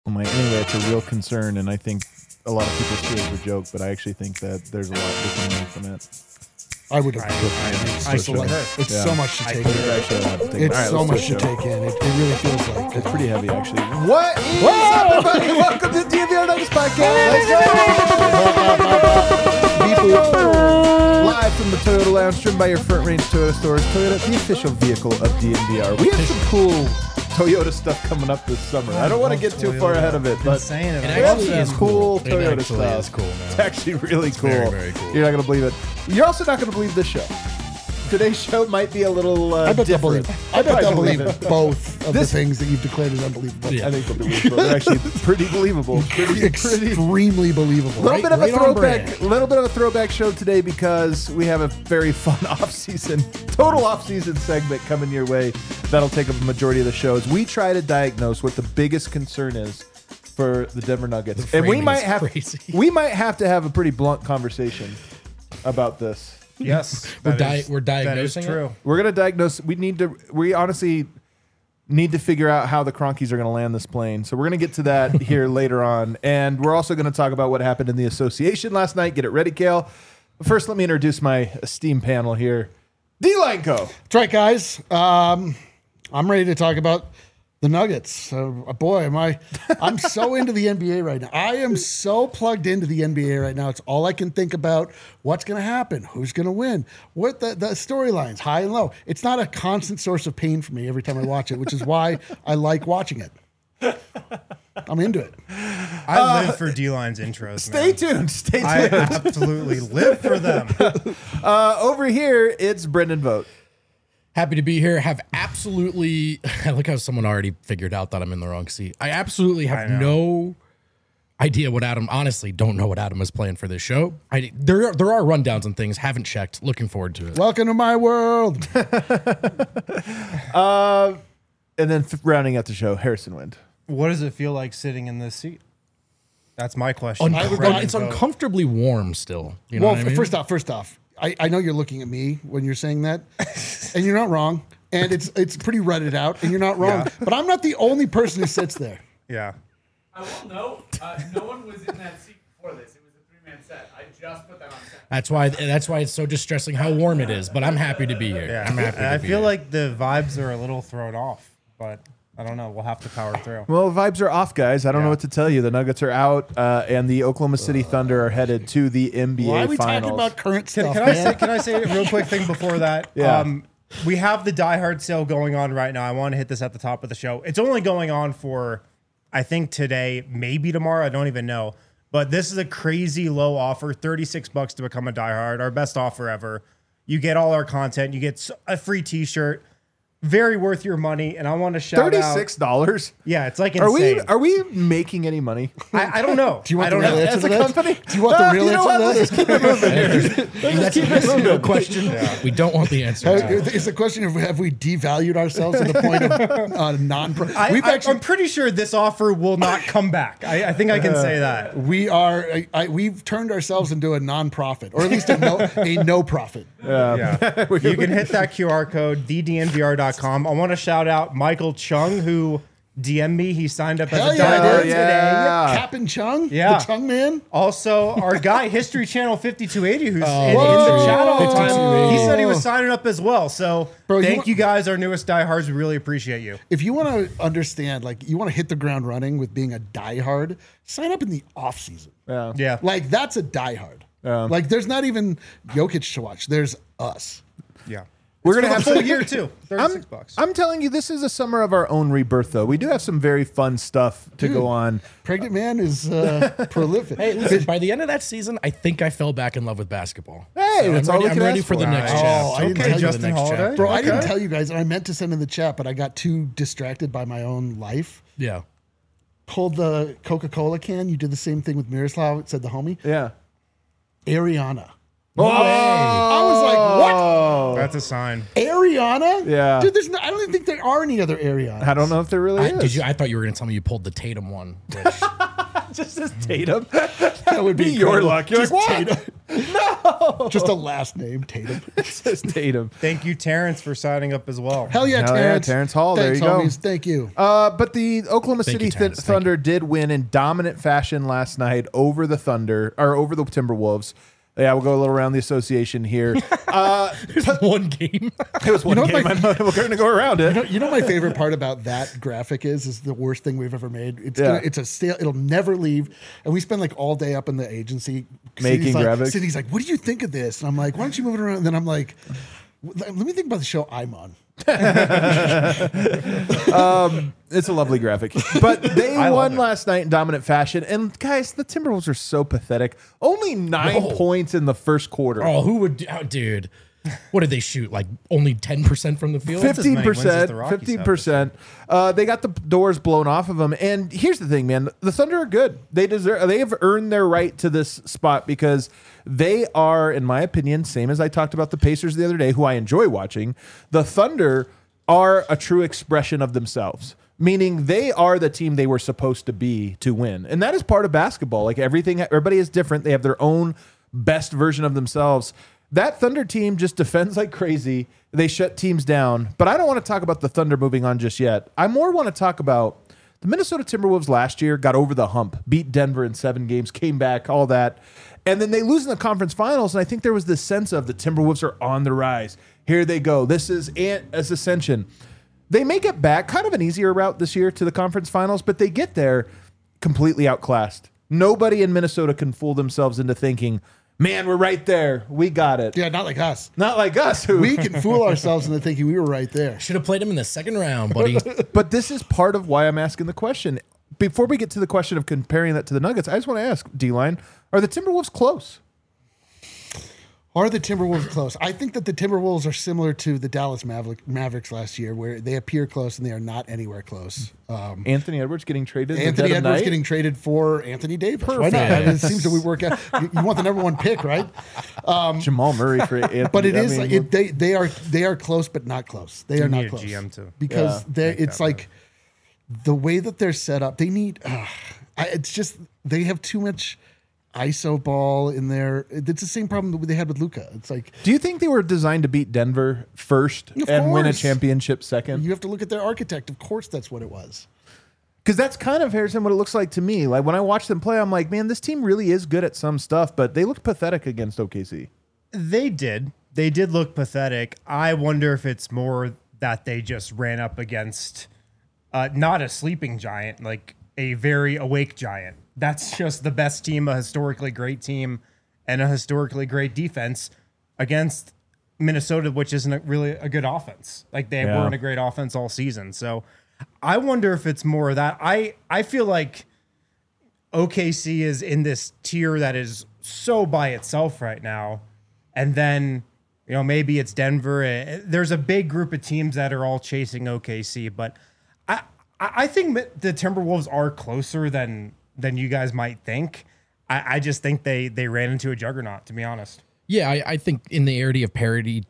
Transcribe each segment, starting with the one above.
Anyway, it's a real concern, and I think a lot of people see it as a joke, but I actually think that there's a lot we can learn from it. I would have. It's so much to take in. It's so much to take in. It really feels like it's pretty heavy, actually. What is up, everybody? Welcome to the DNVR Nuggets podcast. Live from the Toyota Lounge, driven by your Front Range Toyota stores. Toyota, the official vehicle of DNVR. We have some cool Toyota stuff coming up this summer. I don't want to get too far ahead of it, but it actually is cool. Toyota stuff. Is cool, man. It's actually really cool. Very, very cool. You're not going to believe it. You're also not going to believe this show. Today's show might be a little different. I bet they'll believe both of the things that you've declared as unbelievable. Yeah. I think they'll believe both. They're actually pretty believable. Extremely believable. Little bit of a throwback show today because we have a very fun total off-season segment coming your way. That'll take up a majority of the shows. We try to diagnose what the biggest concern is for the Denver Nuggets, and we might have to have a pretty blunt conversation about this. Yes, we're diagnosing. True. It. We're gonna diagnose. We honestly need to figure out how the Cronkies are gonna land this plane. So we're gonna get to that here later on, and we're also gonna talk about what happened in the association last night. Get it ready, Kale. But first, let me introduce my esteemed panel here. D-Line Co. That's right, guys. I'm ready to talk about the Nuggets. Boy, I'm so into the NBA right now. I am so plugged into the NBA right now. It's all I can think about. What's going to happen? Who's going to win? What the storylines, high and low. It's not a constant source of pain for me every time I watch it, which is why I like watching it. I'm into it. I live for D-Line's intros. Stay tuned. I absolutely live for them. Over here, it's Brendan Vogt. Happy to be here. Have absolutely. I look how someone already figured out that I'm in the wrong seat. I absolutely have no idea what Adam. Honestly, don't know what Adam is playing for this show. There are rundowns and things. Haven't checked. Looking forward to it. Welcome to my world. And then rounding out the show, Harrison Wind. What does it feel like sitting in this seat? That's my question. It's uncomfortably warm still. You know what I mean? First off. I know you're looking at me when you're saying that, and you're not wrong. And it's pretty rutted out, and you're not wrong. Yeah. But I'm not the only person who sits there. Yeah. I will note, no one was in that seat before this. It was a three-man set. I just put that on set. That's why it's so distressing how warm it is. But I'm happy to be here. Yeah. I'm happy. I feel like the vibes are a little thrown off, but I don't know. We'll have to power through. Well, vibes are off, guys. I don't know what to tell you. The Nuggets are out, and the Oklahoma City Thunder are headed to the NBA Why are we Finals. talking about current stuff? Can I say a real quick thing before that? Yeah. We have the Die Hard sale going on right now. I want to hit this at the top of the show. It's only going on for, I think, today, maybe tomorrow. I don't even know. But this is a crazy low offer, $36 to become a Die Hard, our best offer ever. You get all our content. You get a free T-shirt. Very worth your money, and I want to shout out $36. Yeah, it's like insane. Are we making any money? I don't know. Do you want the real answer as to a that? company? Do you want the real answer to that? Let's keep it moving here. That's a question. Yeah. We don't want the answer. It's a question of have we devalued ourselves to the point of non-pro? I'm pretty sure this offer will not come back. I think I can say that. We've turned ourselves into a non-profit, or at least a no profit. Yeah. You can hit that QR code, thednvr.com. I want to shout out Michael Chung, who DM'd me. He signed up as a Die Hard today. Cap and Chung? Yeah. The Chung man? Also, our guy, History Channel 5280, who's in the chat all the time, he said he was signing up as well. So thank you guys, our newest Die Hards. We really appreciate you. If you want to understand, you want to hit the ground running with being a Die Hard, sign up in the off season. Yeah. That's a Die Hard. There's not even Jokic to watch. There's us. Yeah. We're going to have a full year too. $36. I'm telling you, this is a summer of our own rebirth, though. We do have some very fun stuff to go on. Pregnant man is prolific. Hey, listen, by the end of that season, I think I fell back in love with basketball. Hey, that's all we can I'm ready ask for the next chapter. I didn't tell you Justin the next Holiday? chapter. Bro, I didn't tell you guys, and I meant to send in the chat, but I got too distracted by my own life. Yeah. Pulled the Coca-Cola can. You did the same thing with Miroslav. It said the homie. Yeah. Ariana. No way. I was like, what? That's a sign. Ariana? Yeah. Dude, I don't even think there are any other Arianas. I don't know if there really is. I thought you were going to tell me you pulled the Tatum one. Just as Tatum. That would be your luck. You're Just like, what? Tatum. No. Just a last name, Tatum. It says Tatum. Thank you, Terrence, for signing up as well. Hell yeah, Hell yeah, Terrence. Terrence Hall. There Thanks, you go. homies. Thank you. But the Oklahoma Thank City you, Terrence. Thank Thunder did win in dominant fashion last night over the Timberwolves. Yeah, we'll go a little around the association here. There's one game. It was one know what game. my- I know we're going to go around it. You know my favorite part about that graphic is the worst thing we've ever made. Yeah. It's a stale. It'll never leave. And we spend like all day up in the agency Making graphics. City's like, what do you think of this? And I'm like, why don't you move it around? And then I'm like, let me think about the show I'm on. It's a lovely graphic. But they won last night in dominant fashion. And guys, the Timberwolves are so pathetic. Only 9 points in the first quarter. Oh, who would, dude? What did they shoot? Like only 10% from the field? 15%. 15%. They got the doors blown off of them. And here's the thing, man. The Thunder are good. They have earned their right to this spot because they are, in my opinion, same as I talked about the Pacers the other day, who I enjoy watching. The Thunder are a true expression of themselves. Meaning they are the team they were supposed to be to win. And that is part of basketball. Like everybody is different. They have their own best version of themselves. That Thunder team just defends like crazy. They shut teams down. But I don't want to talk about the Thunder moving on just yet. I more want to talk about the Minnesota Timberwolves last year got over the hump, beat Denver in 7 games, came back, all that. And then they lose in the conference finals. And I think there was this sense of the Timberwolves are on the rise. Here they go. This is ascension. They make it back, kind of an easier route this year to the conference finals, but they get there completely outclassed. Nobody in Minnesota can fool themselves into thinking, man, we're right there. We got it. Yeah, not like us. Not like us. We can fool ourselves into thinking we were right there. Should have played him in the second round, buddy. But this is part of why I'm asking the question. Before we get to the question of comparing that to the Nuggets, I just want to ask, D-Line, are the Timberwolves close? Are the Timberwolves close? I think that the Timberwolves are similar to the Dallas Mavericks last year, where they appear close and they are not anywhere close. Anthony Edwards getting traded? Anthony Edwards getting traded for Anthony Davis. Why not? I mean, it seems that we work out. You want the number 1 pick, right? Jamal Murray for Anthony. But it is like they are close, but not close. They are not close. GM too. Because it's like the way that they're set up. They need. It's just they have too much ISO ball in there. It's the same problem that they had with Luka. It's like, do you think they were designed to beat Denver first and win a championship second? You have to look at their architect. Of course, that's what it was. Because that's kind of, Harrison, what it looks like to me. Like when I watch them play, I'm like, man, this team really is good at some stuff, but they looked pathetic against OKC. They did. They did look pathetic. I wonder if it's more that they just ran up against not a sleeping giant, like a very awake giant. That's just the best team, a historically great team, and a historically great defense against Minnesota, which isn't really a good offense. Like they weren't a great offense all season. So I wonder if it's more of that. I feel like OKC is in this tier that is so by itself right now. And then, maybe it's Denver. There's a big group of teams that are all chasing OKC, but I think the Timberwolves are closer than you guys might think. I just think they ran into a juggernaut, to be honest. Yeah, I think in the era of parity,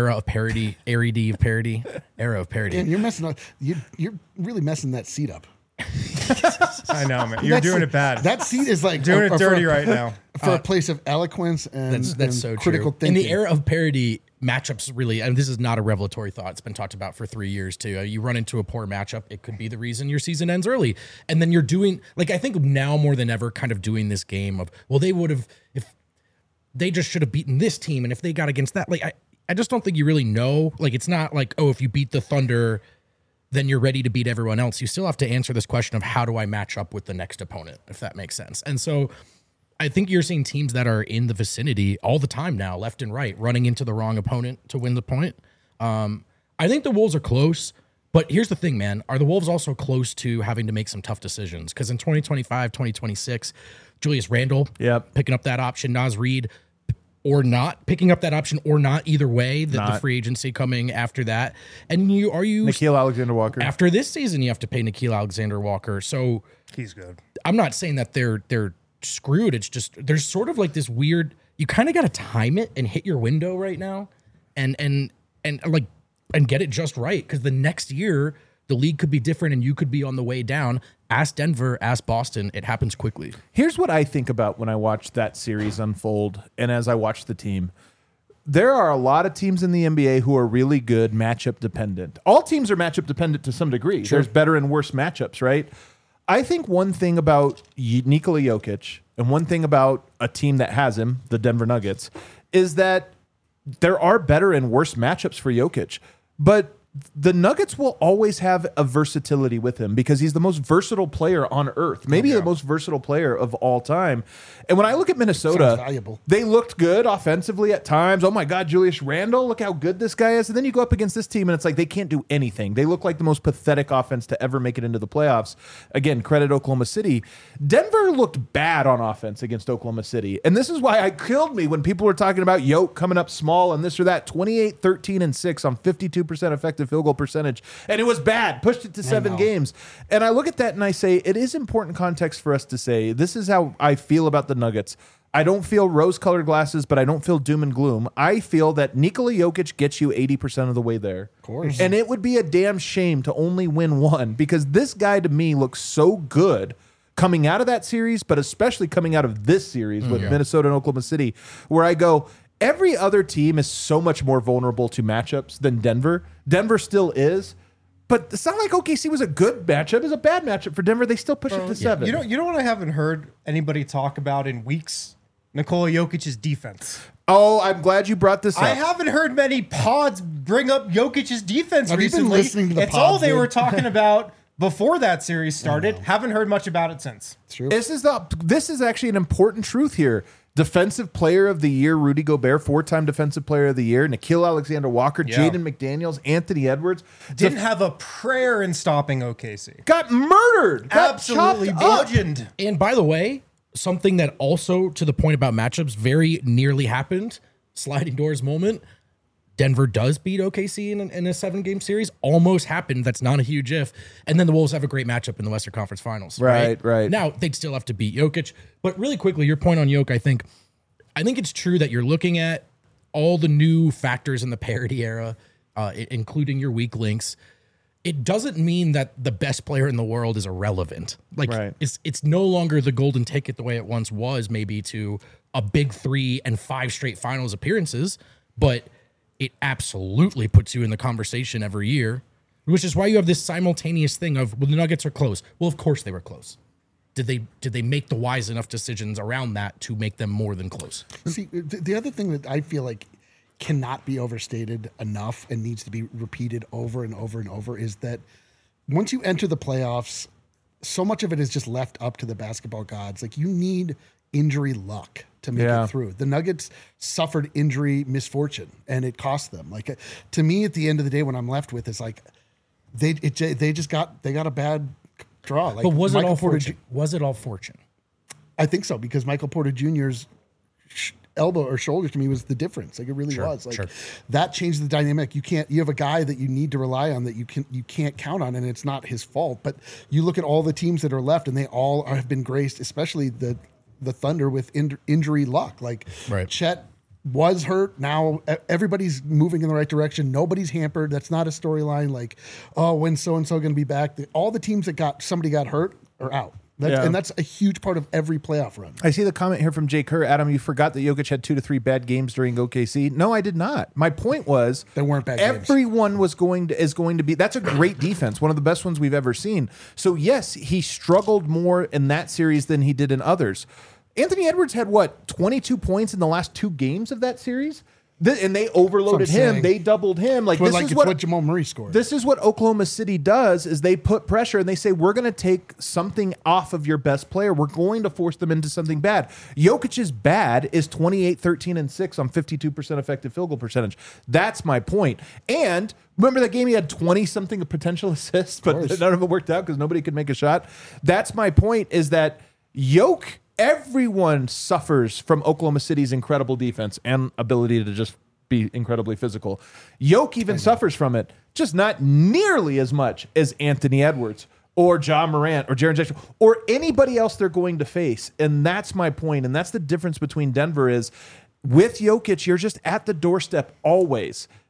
And you're messing up. You're really messing that seat up. I know, man. You're doing it bad. That seat is like doing it dirty right now. For a place of eloquence and that's so critical true. thinking. In the era of parity, matchups really, and this is not a revelatory thought. It's been talked about for 3 years too. You run into a poor matchup, it could be the reason your season ends early. And then you're doing, like, I think now more than ever, kind of doing this game of, well, they would have, if they just should have beaten this team, and if they got against that, like, I just don't think you really know. Like, it's not like, oh, if you beat the Thunder, then you're ready to beat everyone else. You still have to answer this question of how do I match up with the next opponent, if that makes sense. And so I think you're seeing teams that are in the vicinity all the time now, left and right, running into the wrong opponent to win the point. I think the Wolves are close, but here's the thing, man. Are the Wolves also close to having to make some tough decisions? Because in 2025, 2026, Julius Randle picking up that option, Naz Reid or not picking up that option or not, either way, the free agency coming after that. And are you Nickeil Alexander-Walker. After this season, you have to pay Nickeil Alexander-Walker. So he's good. I'm not saying that they're screwed. It's just there's sort of like this weird, you kind of got to time it and hit your window right now and get it just right, because the next year the league could be different and you could be on the way down. ask Denver, ask Boston. It happens quickly. Here's what I think about when I watch that series unfold and as I watch the team. There are a lot of teams in the NBA who are really good matchup dependent. All teams are matchup dependent to some degree. Sure. There's better and worse matchups, right? I think one thing about Nikola Jokic and one thing about a team that has him, the Denver Nuggets, is that there are better and worse matchups for Jokic. But the Nuggets will always have a versatility with him because he's the most versatile player on earth, maybe the most versatile player of all time. And when I look at Minnesota, they looked good offensively at times. Oh my God, Julius Randle, look how good this guy is. And then you go up against this team and it's like they can't do anything. They look like the most pathetic offense to ever make it into the playoffs. Again, credit Oklahoma City. Denver looked bad on offense against Oklahoma City. And this is why it killed me when people were talking about Yoke coming up small and this or that. 28, 13, and 6 on 52% effective field goal percentage. And it was bad. Pushed it to 7 games. And I look at that and I say, it is important context for us to say, this is how I feel about the Nuggets. I don't feel rose-colored glasses, but I don't feel doom and gloom. I feel that Nikola Jokic gets you 80% of the way there. Of course. And it would be a damn shame to only win one because this guy to me looks so good coming out of that series, but especially coming out of this series with Minnesota and Oklahoma City, where I go, every other team is so much more vulnerable to matchups than Denver. Denver still is. But it's not like OKC was a good matchup. It was a bad matchup for Denver. They still push it to 7. You know what I haven't heard anybody talk about in weeks? Nikola Jokic's defense. Oh, I'm glad you brought this up. I haven't heard many pods bring up Jokic's defense Have recently. you been listening to the it's pods, all they dude? were talking about before that series started. Haven't heard much about it since. It's true. This is actually an important truth here. Defensive Player of the Year, Rudy Gobert, 4-time Defensive Player of the Year, Nickeil Alexander-Walker, Jaden McDaniels, Anthony Edwards. Didn't have a prayer in stopping OKC. Got murdered. Got Absolutely chopped up. bludgeoned. And by the way, something that also, to the point about matchups, very nearly happened, sliding doors moment. Denver does beat OKC in a 7-game series. Almost happened. That's not a huge if. And then the Wolves have a great matchup in the Western Conference Finals. Right. Now, they'd still have to beat Jokic. But really quickly, your point on Jokic, I think it's true that you're looking at all the new factors in the parity era, including your weak links. It doesn't mean that the best player in the world is irrelevant. Like, it's no longer the golden ticket the way it once was, maybe to a big 3 and 5 straight finals appearances. But it absolutely puts you in the conversation every year, which is why you have this simultaneous thing of, well, the Nuggets are close. Well, of course they were close. Did they make the wise enough decisions around that to make them more than close? See, the other thing that I feel like cannot be overstated enough and needs to be repeated over and over and over is that once you enter the playoffs, so much of it is just left up to the basketball gods. Like, you need injury luck to make it through. The Nuggets suffered injury misfortune and it cost them. Like, to me, at the end of the day, when I'm left with is like, they got a bad draw. Like, but was Michael it all Porter fortune? Was it all fortune? I think so, because Michael Porter Jr.'s elbow or shoulder to me was the difference. Like, it really was. Like, that changed the dynamic. You have a guy that you need to rely on that you can't count on, and it's not his fault. But you look at all the teams that are left, and they all have been graced, especially the Thunder, with injury luck. Like, Chet was hurt. Now everybody's moving in the right direction. Nobody's hampered. That's not a storyline. Like, oh, when's so-and-so going to be back? All the teams that somebody got hurt are out. And that's a huge part of every playoff run. I see the comment here from Jay Kerr. Adam, you forgot that Jokic had 2 to 3 bad games during OKC. No, I did not. My point was they weren't bad games. Everyone is going to be. That's a great defense, one of the best ones we've ever seen. So yes, he struggled more in that series than he did in others. Anthony Edwards had 22 points in the last 2 games of that series? And they overloaded him. They doubled him. Like, this is what Jamal Murray scored. This is what Oklahoma City does: is they put pressure and they say, "We're going to take something off of your best player. We're going to force them into something bad." Jokic's bad is 28, 13, and 6 on 52% effective field goal percentage. That's my point. And remember that game? He had 20-something potential assists, but none of it worked out because nobody could make a shot. That's my point. Is that Jokic? Everyone suffers from Oklahoma City's incredible defense and ability to just be incredibly physical. Jokic even suffers from it, just not nearly as much as Anthony Edwards or Ja Morant or Jaren Jackson or anybody else they're going to face. And that's my point. And that's the difference between Denver is with Jokic, you're just at the doorstep always.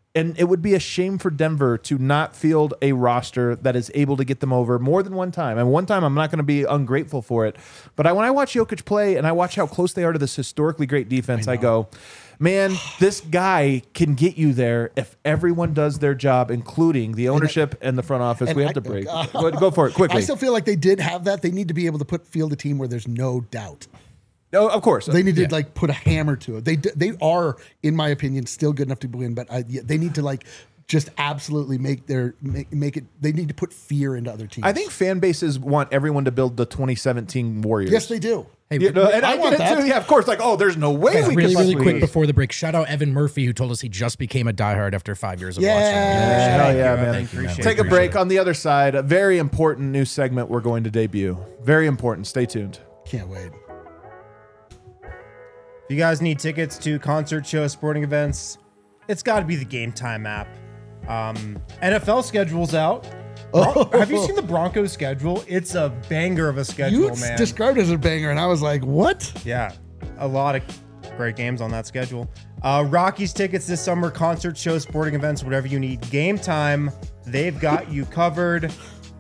And it would be a shame for Denver to not field a roster that is able to get them over more than one time. And one time, I'm not going to be ungrateful for it. But when I watch Jokic play and I watch how close they are to this historically great defense, I go, man, this guy can get you there if everyone does their job, including the ownership and the front office. We have to break. Go for it quickly. I still feel like they did have that. They need to be able to field a team where there's no doubt. Oh, of course. They need to put a hammer to it. They are, in my opinion, still good enough to win, but they need to just absolutely make it. They need to put fear into other teams. I think fan bases want everyone to build the 2017 Warriors. Yes, they do. Hey, and I want that too. Yeah, of course. There's no way we really, could really quick before the break. Shout out Evan Murphy, who told us he just became a diehard after 5 years of watching. Hell yeah, man. Appreciate Take a it. break. On the other side, a very important new segment we're going to debut. Very important. Stay tuned. Can't wait. If you guys need tickets to concert shows, sporting events, it's got to be the Game Time app. NFL schedule's out. Have you seen the Broncos schedule? It's a banger of a schedule, You man. described it as a banger, and I was like, what? Yeah, a lot of great games on that schedule. Rockies tickets this summer, concert shows, sporting events, whatever you need. Game Time, they've got you covered.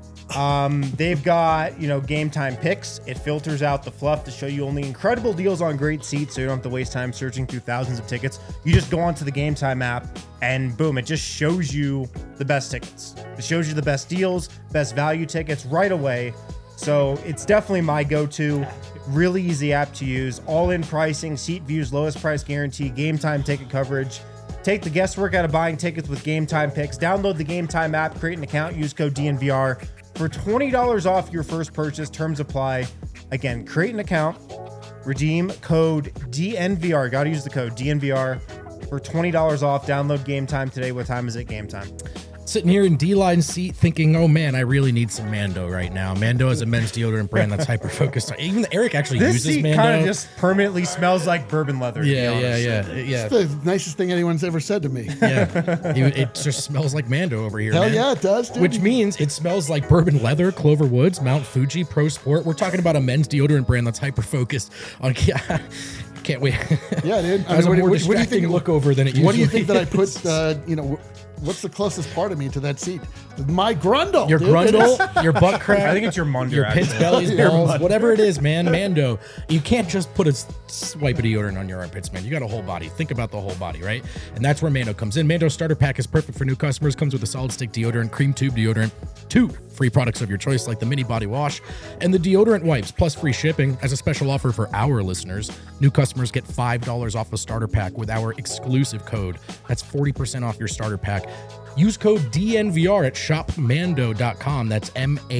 They've got, Game Time picks. It filters out the fluff to show you only incredible deals on great seats, so you don't have to waste time searching through thousands of tickets. You just go onto the Game Time app and boom, it just shows you the best tickets. It shows you the best deals, best value tickets right away. So it's definitely my go-to. Really easy app to use. All-in pricing, seat views, lowest price guarantee, Game Time ticket coverage. Take the guesswork out of buying tickets with Game Time picks. Download the Game Time app, create an account, use code DNVR for $20 off your first purchase. Terms apply. Again, create an account, redeem code DNVR. Got to use the code DNVR for $20 off. Download Game Time today. What time is it? Game Time. Sitting here in D-line seat thinking, oh man, I really need some Mando right now. Mando is a men's deodorant brand that's hyper-focused. Even Eric actually This uses seat Mando. kind of just permanently smells like bourbon leather. to be honest. Yeah. It's the nicest thing anyone's ever said to me. It just smells like Mando over here, Hell man. yeah, it does, dude. Which means it smells like bourbon leather, Clover Woods, Mount Fuji, Pro Sport. We're talking about a men's deodorant brand that's hyper-focused on... Can't wait. Yeah, dude. Has a more distracting look over than it usually What do you think that I is. put, what's the closest part of me to that seat? My grundle. Your dude. grundle, your butt crack. I think it's your munder, your pits, actually. bellies, balls, whatever it is, man. Mando. You can't just put a swipe of deodorant on your armpits, man. You got a whole body. Think about the whole body, right? And that's where Mando comes in. Mando starter pack is perfect for new customers. Comes with a solid stick deodorant, cream tube deodorant, 2 free products of your choice like the mini body wash and the deodorant wipes, plus free shipping. As a special offer for our listeners, new customers get $5 off a starter pack with our exclusive code. That's 40% off your starter pack. Use code DNVR at shopmando.com. That's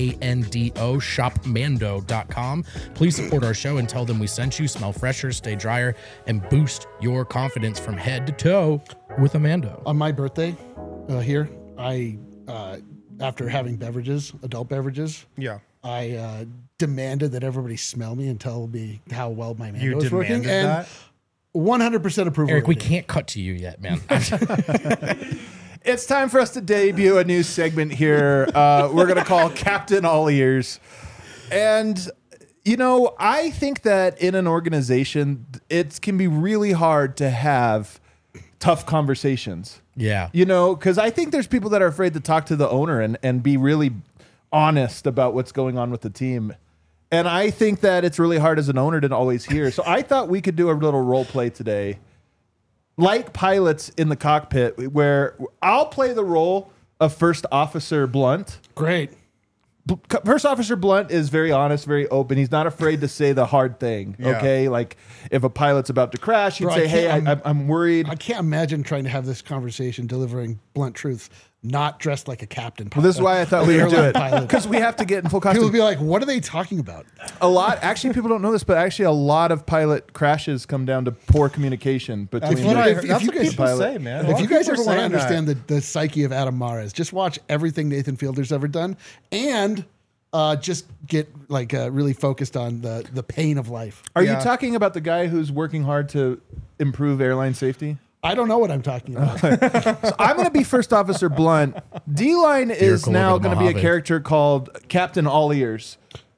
MANDO, shopmando.com. Please support our show and tell them we sent you. Smell fresher, stay drier, and boost your confidence from head to toe with a Mando. On my birthday here, I, after having adult beverages, Yeah. I demanded that everybody smell me and tell me how well my Mando You is working. demanded And that? 100% approval. Eric, we rating. can't cut to you yet, man. It's time for us to debut a new segment here. We're going to call Captain All Ears. And, I think that in an organization, it can be really hard to have tough conversations. Yeah. Because I think there's people that are afraid to talk to the owner and be really honest about what's going on with the team. And I think that it's really hard as an owner to always hear. So I thought we could do a little role play today. Like pilots in the cockpit, where I'll play the role of First Officer Blunt. Great. First Officer Blunt is very honest, very open. He's not afraid to say the hard thing. Yeah. Okay, like if a pilot's about to crash, he'd Bro, say, "Hey, I'm worried." I can't imagine trying to have this conversation delivering blunt truths, not dressed like a captain. Well, this is why I thought we would do it, Pilot. because we have to get in full People costume. would be like, "What are they talking about?" Actually, people don't know this, but actually, a lot of pilot crashes come down to poor communication between. That's what I heard. if That's you what guys- people pilot. say, man. A lot If you of guys people ever are want to saying that. understand the psyche of Adam Mares, just watch everything Nathan Fielder's ever done, and just get really focused on the pain of life. Are you Yeah. talking about the guy who's working hard to improve airline safety? I don't know what I'm talking about. So I'm going to be First Officer Blunt. D-Line is Vehicle now over the going to be a Mojave. character called Captain All Ears.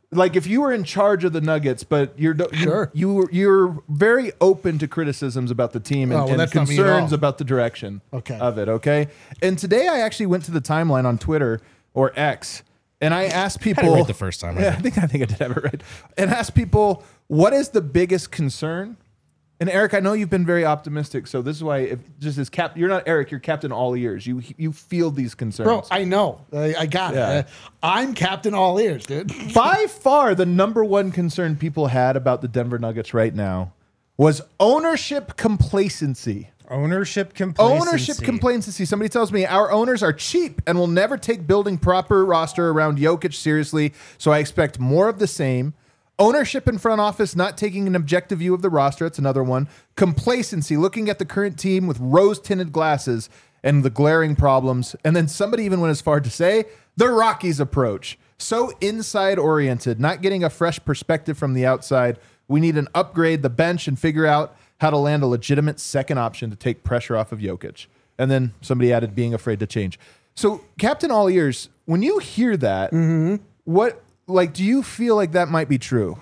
like if you were in charge of the Nuggets, but you're very open to criticisms about the team and, and concerns about the direction of it. Okay. And today I actually went to the timeline on Twitter or X, and I asked people. I had it right the first time. I think I did have it right. And asked people, what is the biggest concern? And Eric, I know you've been very optimistic, so this is why, if just as you're not Eric, you're Captain All Ears. You feel these concerns, bro. I know, I got it. I'm Captain All Ears, dude. By far, the number one concern people had about the Denver Nuggets right now was ownership complacency. Ownership complacency. Somebody tells me our owners are cheap and will never take building proper roster around Jokic seriously, so I expect more of the same. Ownership and front office not taking an objective view of the roster. That's another one. Complacency, looking at the current team with rose-tinted glasses and the glaring problems. And then somebody even went as far to say the Rockies approach. So inside-oriented, not getting a fresh perspective from the outside. We need an upgrade the bench and figure out how to land a legitimate second option to take pressure off of Jokic. And then somebody added being afraid to change. So Captain All Ears, when you hear that, what... like, do you feel like that might be true?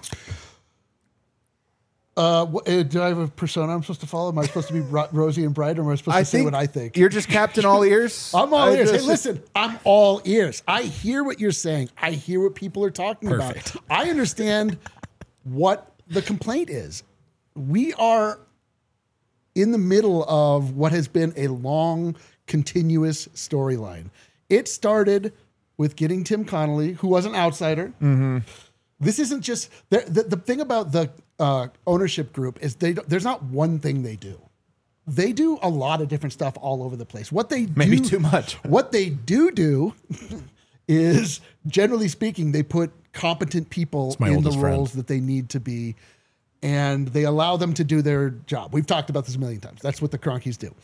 Do I have a persona I'm supposed to follow? Am I supposed to be rosy and bright, or am I supposed to say what I think? You're just Captain All Ears? I'm all ears. Hey, listen, I'm all ears. I hear what you're saying. I hear what people are talking about. I understand what the complaint is. We are in the middle of what has been a long, continuous storyline. It started with getting Tim Connolly, who was an outsider. This isn't just... The thing about the ownership group is there's not one thing they do. They do a lot of different stuff all over the place. What they Maybe too much. What they do is, generally speaking, they put competent people in the roles that they need to be, and they allow them to do their job. We've talked about this a million times. That's what the Kroenkes do.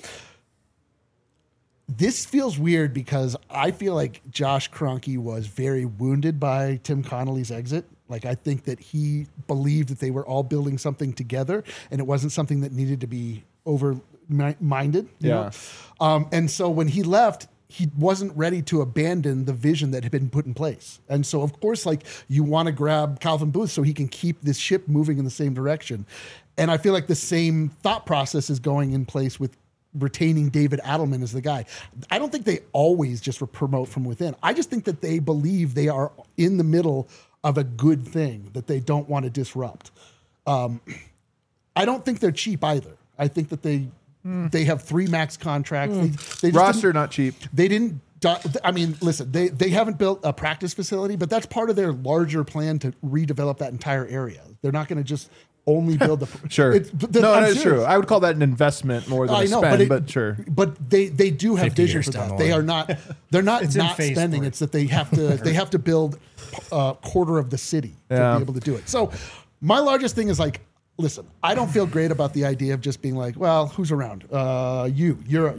This feels weird because I feel like Josh Kroenke was very wounded by Tim Connolly's exit. Like, I think that he believed that they were all building something together, and it wasn't something that needed to be over-minded. You know? And so when he left, he wasn't ready to abandon the vision that had been put in place. And so, of course, like, you want to grab Calvin Booth so he can keep this ship moving in the same direction. And I feel like the same thought process is going in place with retaining David Adelman as the guy. I don't think they always just promote from within. I just think that they believe they are in the middle of a good thing that they don't want to disrupt. I don't think they're cheap either. I think that they have 3 max contracts. They roster not cheap. They didn't. I mean, listen, they haven't built a practice facility, but that's part of their larger plan to redevelop that entire area. They're not going to just only build the sure. That's true. I would call that an investment more than a spend, but sure. But they do have vision for that. They are not. They're not spending. It's that they have to build a quarter of the city to be able to do it. So my largest thing is like, listen, I don't feel great about the idea of just being like, well, who's around? You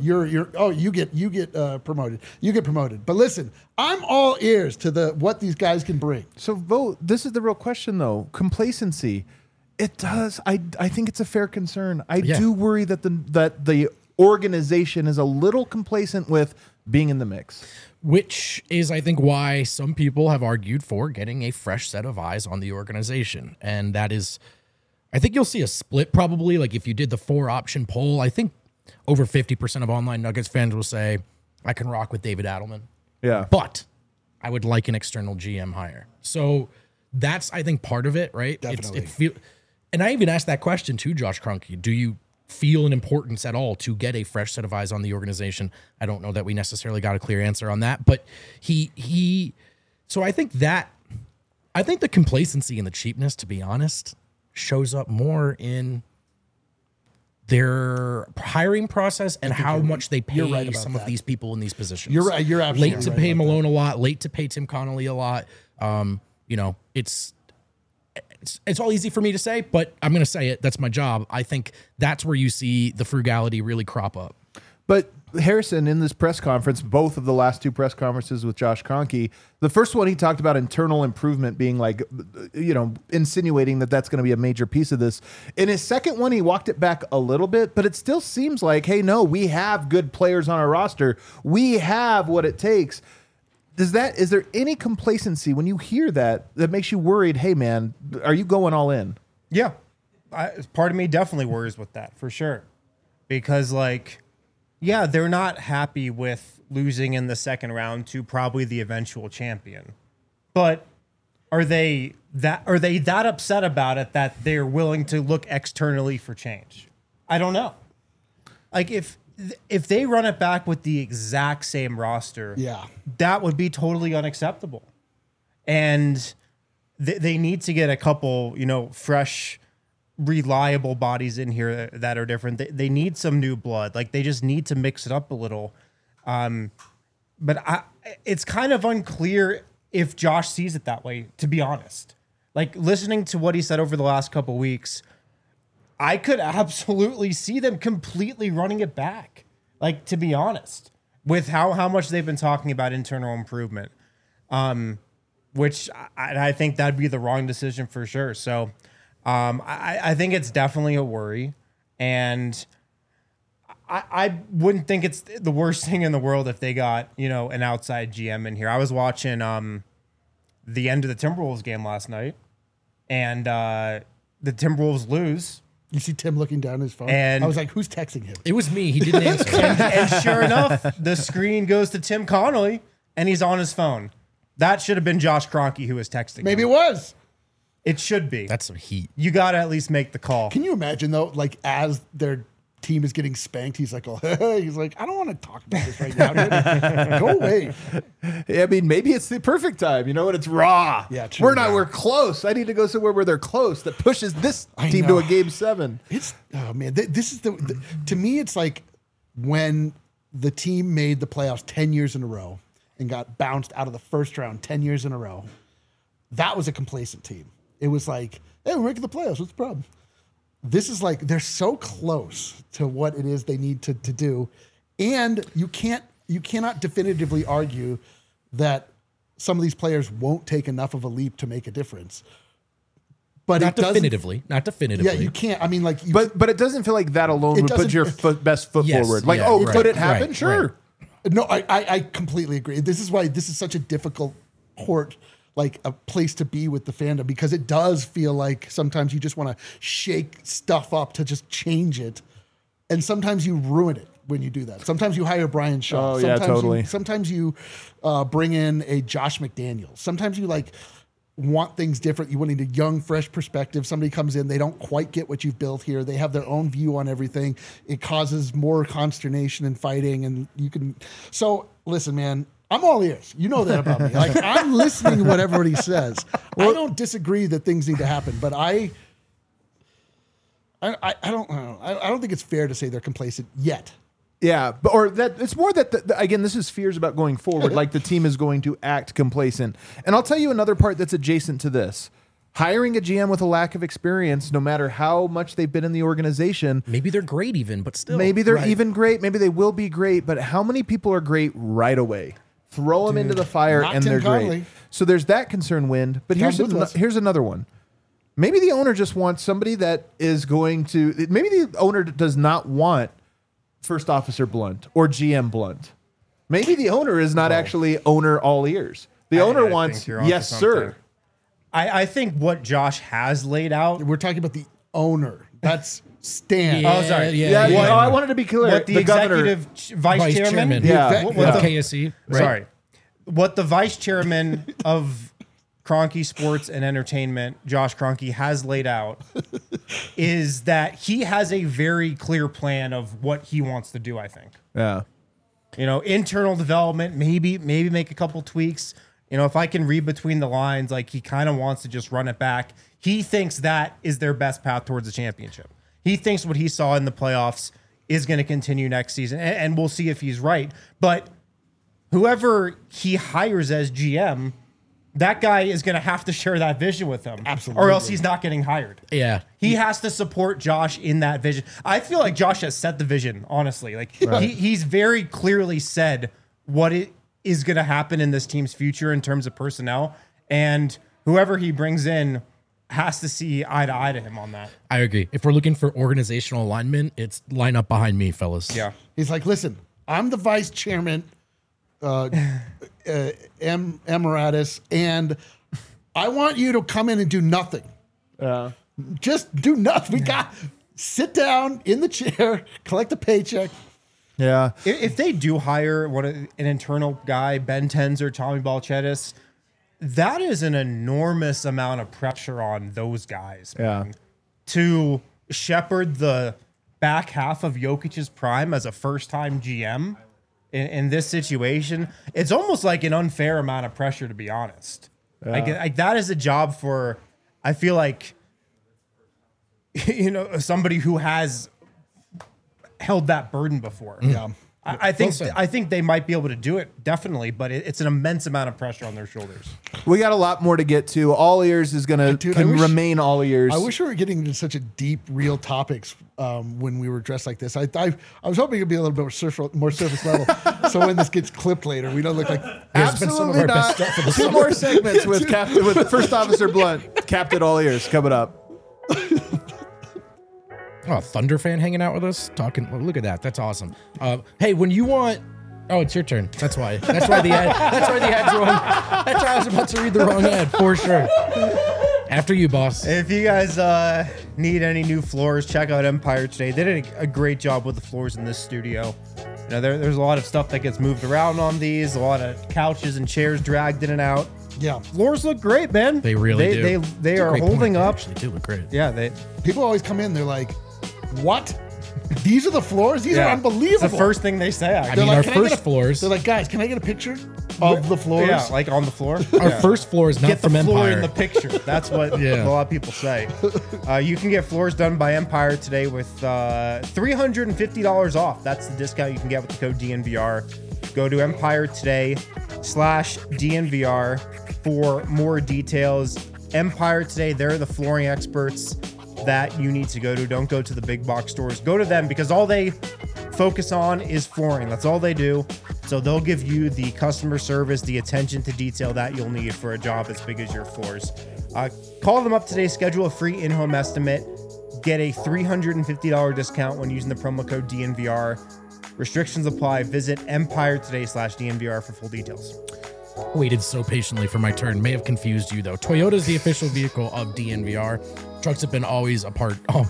get promoted. You get promoted. But listen, I'm all ears to what these guys can bring. So vote. This is the real question though. Complacency. It does. I think it's a fair concern. I do worry that the organization is a little complacent with being in the mix. Which is, I think, why some people have argued for getting a fresh set of eyes on the organization. And that is, I think you'll see a split probably. Like if you did the 4-option poll, I think over 50% of online Nuggets fans will say, I can rock with David Adelman. Yeah. But I would like an external GM hire. So that's, I think, part of it, right? Definitely. And I even asked that question to Josh Kroenke. Do you feel an importance at all to get a fresh set of eyes on the organization? I don't know that we necessarily got a clear answer on that, but so I think the complacency and the cheapness, to be honest, shows up more in their hiring process and how much they pay some of these people in these positions. You're right. You're absolutely late to pay Malone a lot, late to pay Tim Connolly a lot. It's all easy for me to say, but I'm going to say it. That's my job. I think that's where you see the frugality really crop up. But Harrison, in this press conference, both of the last 2 press conferences with Josh Kroenke, the first one he talked about internal improvement being like, insinuating that that's going to be a major piece of this. In his second one, he walked it back a little bit, but it still seems like, hey, no, we have good players on our roster. We have what it takes. is there any complacency when you hear that makes you worried? Hey, man, are you going all in? Yeah. Part of me definitely worries with that for sure. Because they're not happy with losing in the second round to probably the eventual champion. But are they that upset about it that they're willing to look externally for change? I don't know. If they run it back with the exact same roster, that would be totally unacceptable. And they need to get a couple, fresh, reliable bodies in here that are different. They need some new blood. They just need to mix it up a little. But it's kind of unclear if Josh sees it that way, to be honest. Listening to what he said over the last couple weeks, I could absolutely see them completely running it back. To be honest, with how much they've been talking about internal improvement, which I think that'd be the wrong decision for sure. So I think it's definitely a worry, and I wouldn't think it's the worst thing in the world if they got, an outside GM in here. I was watching the end of the Timberwolves game last night, and the Timberwolves lose. You see Tim looking down his phone. And I was like, who's texting him? It was me. He didn't answer. and sure enough, the screen goes to Tim Connolly, and he's on his phone. That should have been Josh Kroenke who was texting Maybe him. it was. It should be. That's some heat. You got to at least make the call. Can you imagine, though, as their team is getting spanked, he's like, he's like, I don't want to talk about this right now, dude. Go away. I mean, maybe it's the perfect time, when it's raw. Yeah, true. We're close. I need to go somewhere where they're close that pushes this team to a game 7. Oh man, this is to me, it's like when the team made the playoffs 10 years in a row and got bounced out of the first round 10 years in a row. That was a complacent team. It was like, hey, we're making the playoffs. What's the problem? This is they're so close to what it is they need to do. And you cannot definitively argue that some of these players won't take enough of a leap to make a difference. But Not definitively. Yeah, you can't. I mean, but it doesn't feel like that alone would put your best foot Yes, forward. yeah, Could it happen? right, Sure. right. No, I completely agree. This is why this is such a difficult court, a place to be with the fandom, because it does feel like sometimes you just want to shake stuff up to just change it. And sometimes you ruin it when you do that. Sometimes you hire Brian Shaw. Oh, yeah, totally. Sometimes you bring in a Josh McDaniels. Sometimes you want things different. You want a young, fresh perspective. Somebody comes in, they don't quite get what you've built here. They have their own view on everything. It causes more consternation and fighting. And so listen, man, I'm all ears. You know that about me. I'm listening to what everybody says. I don't disagree that things need to happen, but I don't know. I don't think it's fair to say they're complacent yet. Yeah, it's more that again, this is fears about going forward. The team is going to act complacent. And I'll tell you another part that's adjacent to this: hiring a GM with a lack of experience, no matter how much they've been in the organization. Maybe they're great, even, but still. Maybe they're even great. Maybe they will be great. But how many people are great right away? Throw them into the fire, and they're great. So there's that concern. Wind. But here's another one. Maybe the owner just wants somebody that is going to. Maybe the owner does not want First Officer Blunt or GM Blunt. Maybe the owner is not actually owner all ears. The owner wants yes, sir. I think what Josh has laid out. We're talking about the owner. That's Stan. Yeah, Oh, sorry. Yeah. I wanted to be clear. What the executive vice chairman. Yeah. What of the- KSE. Right? Sorry. What the vice chairman of Kroenke Sports and Entertainment, Josh Kroenke, has laid out is that he has a very clear plan of what he wants to do, I think. Yeah. Internal development, maybe make a couple tweaks. If I can read between the lines, he kind of wants to just run it back. He thinks that is their best path towards the championship. He thinks what he saw in the playoffs is going to continue next season, and we'll see if he's right. But whoever he hires as GM, that guy is going to have to share that vision with him. Absolutely. Or else he's not getting hired. Yeah. He has to support Josh in that vision. I feel like Josh has set the vision, honestly. He's very clearly said what it is going to happen in this team's future in terms of personnel. And whoever he brings in has to see eye to eye to him on that. I agree. If we're looking for organizational alignment, it's line up behind me, fellas. Yeah. He's like, listen, I'm the vice chairman. Emeritus, and I want you to come in and do nothing. Just do nothing. Sit down in the chair, collect a paycheck. Yeah. If they do hire an internal guy, Ben Tenz or Tommy Balcetis, that is an enormous amount of pressure on those guys. Yeah. To shepherd the back half of Jokic's prime as a first-time GM in this situation, it's almost like an unfair amount of pressure, to be honest. Like that is a job for, I feel like, somebody who has held that burden before. Yeah. I think they might be able to do it, definitely, but it's an immense amount of pressure on their shoulders. We got a lot more to get to. All ears is going to remain all ears. I wish we were getting into such a deep, real topics when we were dressed like this. I was hoping it'd be a little bit more surface level. So when this gets clipped later, we don't look like Absolutely not. Two more segments with First Officer Blunt, Captain All Ears, coming up. Oh, Thunder fan hanging out with us, talking. Well, look at that. That's awesome. Hey, when you want, it's your turn. That's why. That's why the ad's wrong. That's why I was about to read the wrong ad for sure. After you, boss. If you guys need any new floors, check out Empire today. They did a great job with the floors in this studio. There's a lot of stuff that gets moved around on these. A lot of couches and chairs dragged in and out. Yeah, floors look great, man. They really do. They are holding up. Actually, do look great. Yeah, people always come in. They're like, "What? These are the floors? These are unbelievable." It's the first thing they say. I mean, our first floors. They're like, "Guys, can I get a picture of the floors?" Yeah, like on the floor. Our first floor is not get from the floor Empire. in the picture. That's what a lot of people say. You can get floors done by Empire today with $350 off. That's the discount you can get with the code DNVR. Go to Empire today/DNVR for more details. Empire Today, they're the flooring experts that you need to go to. Don't go to the big box stores. Go to them because all they focus on is flooring. That's all they do. So they'll give you the customer service, the attention to detail that you'll need for a job as big as your floors. Call them up today. Schedule a free in-home estimate. Get a $350 discount when using the promo code DNVR. Restrictions apply. Visit Empire today/DNVR for full details. Waited so patiently for my turn. May have confused you though. Toyota is the official vehicle of DNVR. Trucks have always been a part of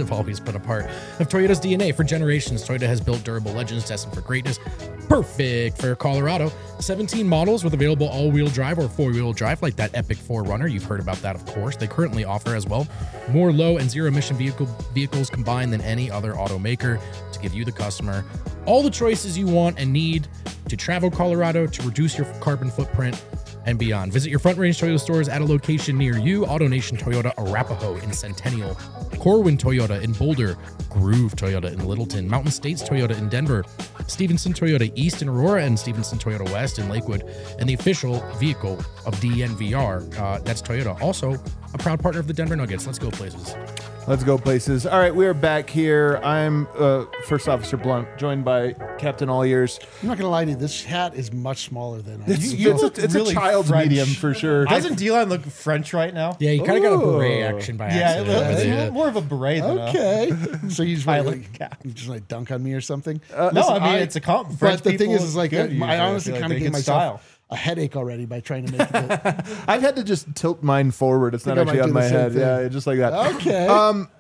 Toyota's DNA for generations. Toyota has built durable legends destined for greatness. Perfect for Colorado. 17 models with available all-wheel drive or four-wheel drive, like that epic 4Runner. You've heard about that, of course. They currently offer as well more low and zero-emission vehicles combined than any other automaker to give you, the customer, all the choices you want and need to travel Colorado, to reduce your carbon footprint, and beyond. Visit your Front Range Toyota stores at a location near you. AutoNation Toyota Arapahoe in Centennial, Corwin Toyota in Boulder, Groove Toyota in Littleton, Mountain States Toyota in Denver, Stevenson Toyota East in Aurora, and Stevenson Toyota West in Lakewood, and the official vehicle of DNVR. That's Toyota. Also a proud partner of the Denver Nuggets. Let's go places. Let's go places. All right, we are back here. I'm First Officer Blunt, joined by Captain All Ears. I'm not going to lie to you. This hat is much smaller than I It's really a child's French. medium for sure. Doesn't D-Line look French right now? Yeah, you kind of got a beret action by accident. It's a little more of a beret than Okay. So you just Pilot cap. dunk on me or something? No, I mean, it's a compliment. But the thing is like, I honestly kind of gave myself style. a headache already by trying to make it. I've had to just tilt mine forward. It's not I actually might on do my the same head. thing. Yeah, just like that. Okay.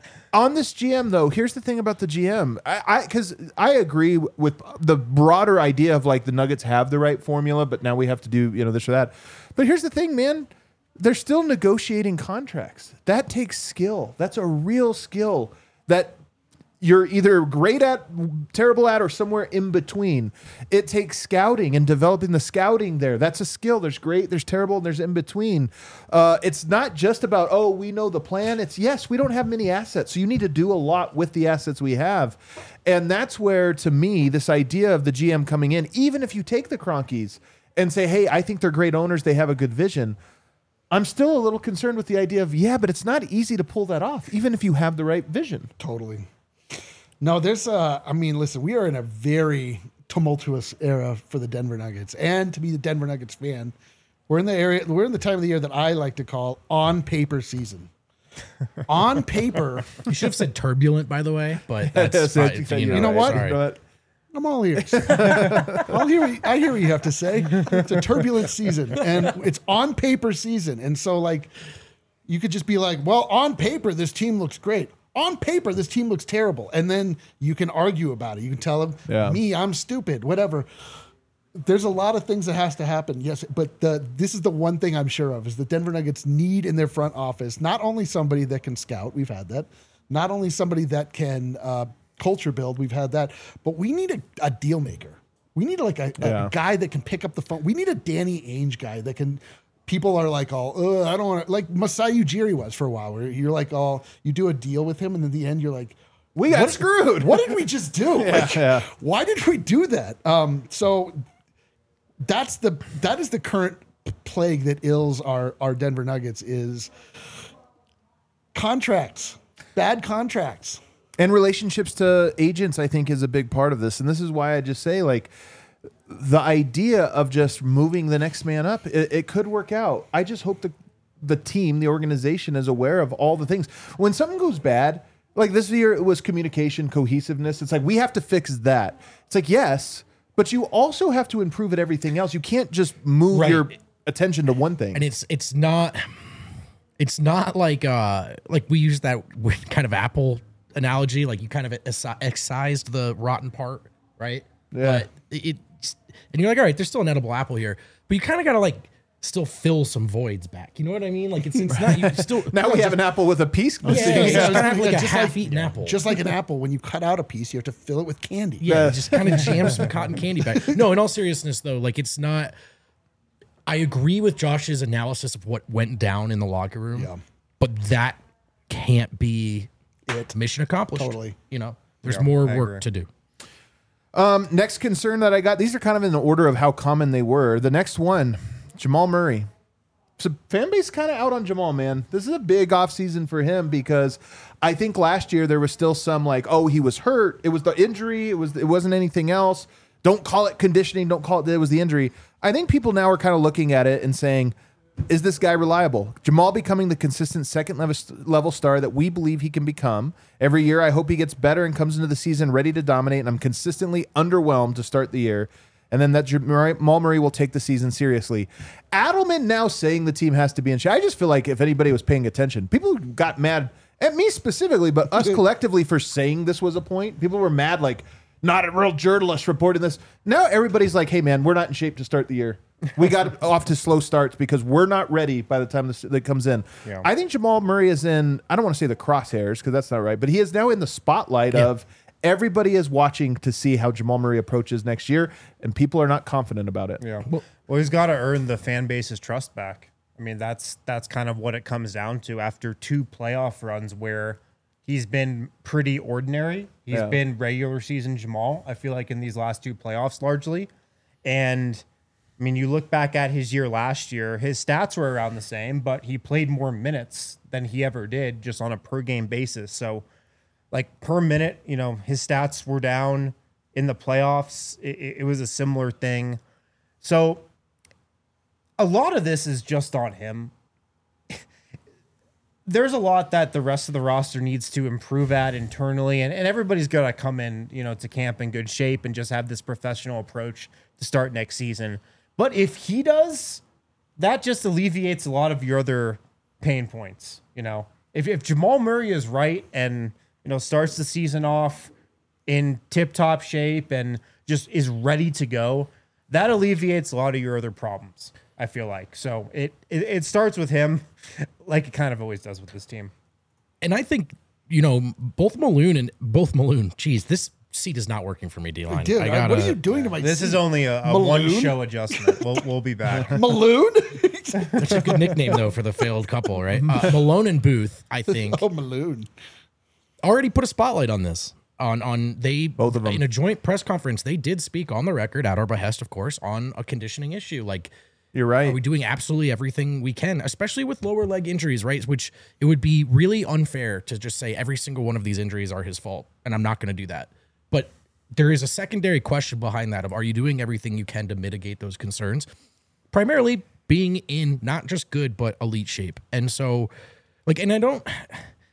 On this GM though, here's the thing about the GM. Because I agree with the broader idea of like the Nuggets have the right formula, but now we have to do this or that. But here's the thing, man. They're still negotiating contracts. That takes skill. That's a real skill that you're either great at, terrible at, or somewhere in between. It takes scouting and developing the scouting there. That's a skill. There's great, there's terrible, and there's in between. It's not just about, we know the plan. It's, yes, we don't have many assets, so you need to do a lot with the assets we have. And that's where, to me, this idea of the GM coming in, even if you take the Cronkies and say, hey, I think they're great owners, they have a good vision, I'm still a little concerned with the idea of, but it's not easy to pull that off, even if you have the right vision. Totally. No, listen, we are in a very tumultuous era for the Denver Nuggets. And to be the Denver Nuggets fan, we're in the time of the year that I like to call on paper season. On paper. You should have said turbulent, by the way, but that's fine. You know what? Sorry. I'm all ears. I hear what you have to say. It's a turbulent season, and it's on paper season. And so, like, you could just be like, well, on paper, this team looks great. On paper, this team looks terrible. And then you can argue about it. You can tell them, me, I'm stupid, whatever. There's a lot of things that has to happen, yes, but this is the one thing I'm sure of, is the Denver Nuggets need in their front office not only somebody that can scout, we've had that, not only somebody that can culture build, we've had that, but we need a deal maker. We need like a guy that can pick up the phone. We need a Danny Ainge guy that can, people are like, oh, I don't want to, like Masai Ujiri was for a while, where you're like, oh, you do a deal with him, and in the end, you're like, we got screwed. What did we just do? Why did we do that? So that is the current plague that ills our Denver Nuggets is contracts, bad contracts. And relationships to agents, I think, is a big part of this. And this is why I just say, like, the idea of just moving the next man up, it could work out. I just hope the team, the organization is aware of all the things. When something goes bad, like this year, it was communication, cohesiveness. It's like, we have to fix that. It's like, yes, but you also have to improve at everything else. You can't just move your attention to one thing. And it's not like we use that kind of Apple analogy, like you kind of excised the rotten part, right? Yeah. But and you're like, all right, there's still an edible apple here, but you kind of got to like still fill some voids back. You know what I mean? Like it's not, you still. Now we have an apple with a piece. Yeah, you kind of have like a half-eaten apple. Just like an apple, when you cut out a piece, you have to fill it with candy. Yeah, just kind of jam some cotton candy back. No, in all seriousness though, like it's not. I agree with Josh's analysis of what went down in the locker room, but that can't be mission accomplished. Totally. You know, there's more work to do. Next concern that I got, these are kind of in the order of how common they were. The next one, Jamal Murray. So fan base kind of out on Jamal, man. This is a big offseason for him because I think last year there was still some like, oh, he was hurt. It was the injury. It wasn't anything else. Don't call it conditioning. Don't call it was the injury. I think people now are kind of looking at it and saying, is this guy reliable? Jamal becoming the consistent second level star that we believe he can become. Every year, I hope he gets better and comes into the season ready to dominate, and I'm consistently underwhelmed to start the year. And then that Jamal Murray will take the season seriously. Adelman now saying the team has to be in shape. I just feel like if anybody was paying attention, people got mad at me specifically, but us collectively for saying this was a point. People were mad, like, not a real journalist reporting this. Now everybody's like, hey, man, we're not in shape to start the year. We got off to slow starts because we're not ready by the time that comes in. Yeah. I think Jamal Murray is in, I don't want to say the crosshairs because that's not right, but he is now in the spotlight of everybody is watching to see how Jamal Murray approaches next year, and people are not confident about it. Yeah. Well, he's got to earn the fan base's trust back. I mean, that's kind of what it comes down to after 2 playoff runs where he's been pretty ordinary. He's been regular season Jamal, I feel like, in these last 2 playoffs largely. And I mean, you look back at his year last year, his stats were around the same, but he played more minutes than he ever did just on a per game basis. So like per minute, you know, his stats were down in the playoffs. It was a similar thing. So a lot of this is just on him. There's a lot that the rest of the roster needs to improve at internally, and everybody's got to come in, you know, to camp in good shape and just have this professional approach to start next season. But if he does, that just alleviates a lot of your other pain points. You know, if Jamal Murray is right and, you know, starts the season off in tip-top shape and just is ready to go, that alleviates a lot of your other problems, I feel like. So it starts with him, like it kind of always does with this team. And I think, you know, both Malone, geez, this seat is not working for me, D-Line. Dude, what are you doing to my This seat? is only a one-show adjustment. We'll be back. Malone? That's a good nickname, though, for the failed couple, right? Malone and Booth, I think. Oh, Malone. Already put a spotlight on this. Both of them. In a joint press conference, they did speak on the record, at our behest, of course, on a conditioning issue. Like, you're right. Are we doing absolutely everything we can, especially with lower leg injuries, right? Which it would be really unfair to just say every single one of these injuries are his fault, and I'm not going to do that. But there is a secondary question behind that of, are you doing everything you can to mitigate those concerns? Primarily being in not just good, but elite shape. And so, like, and I don't,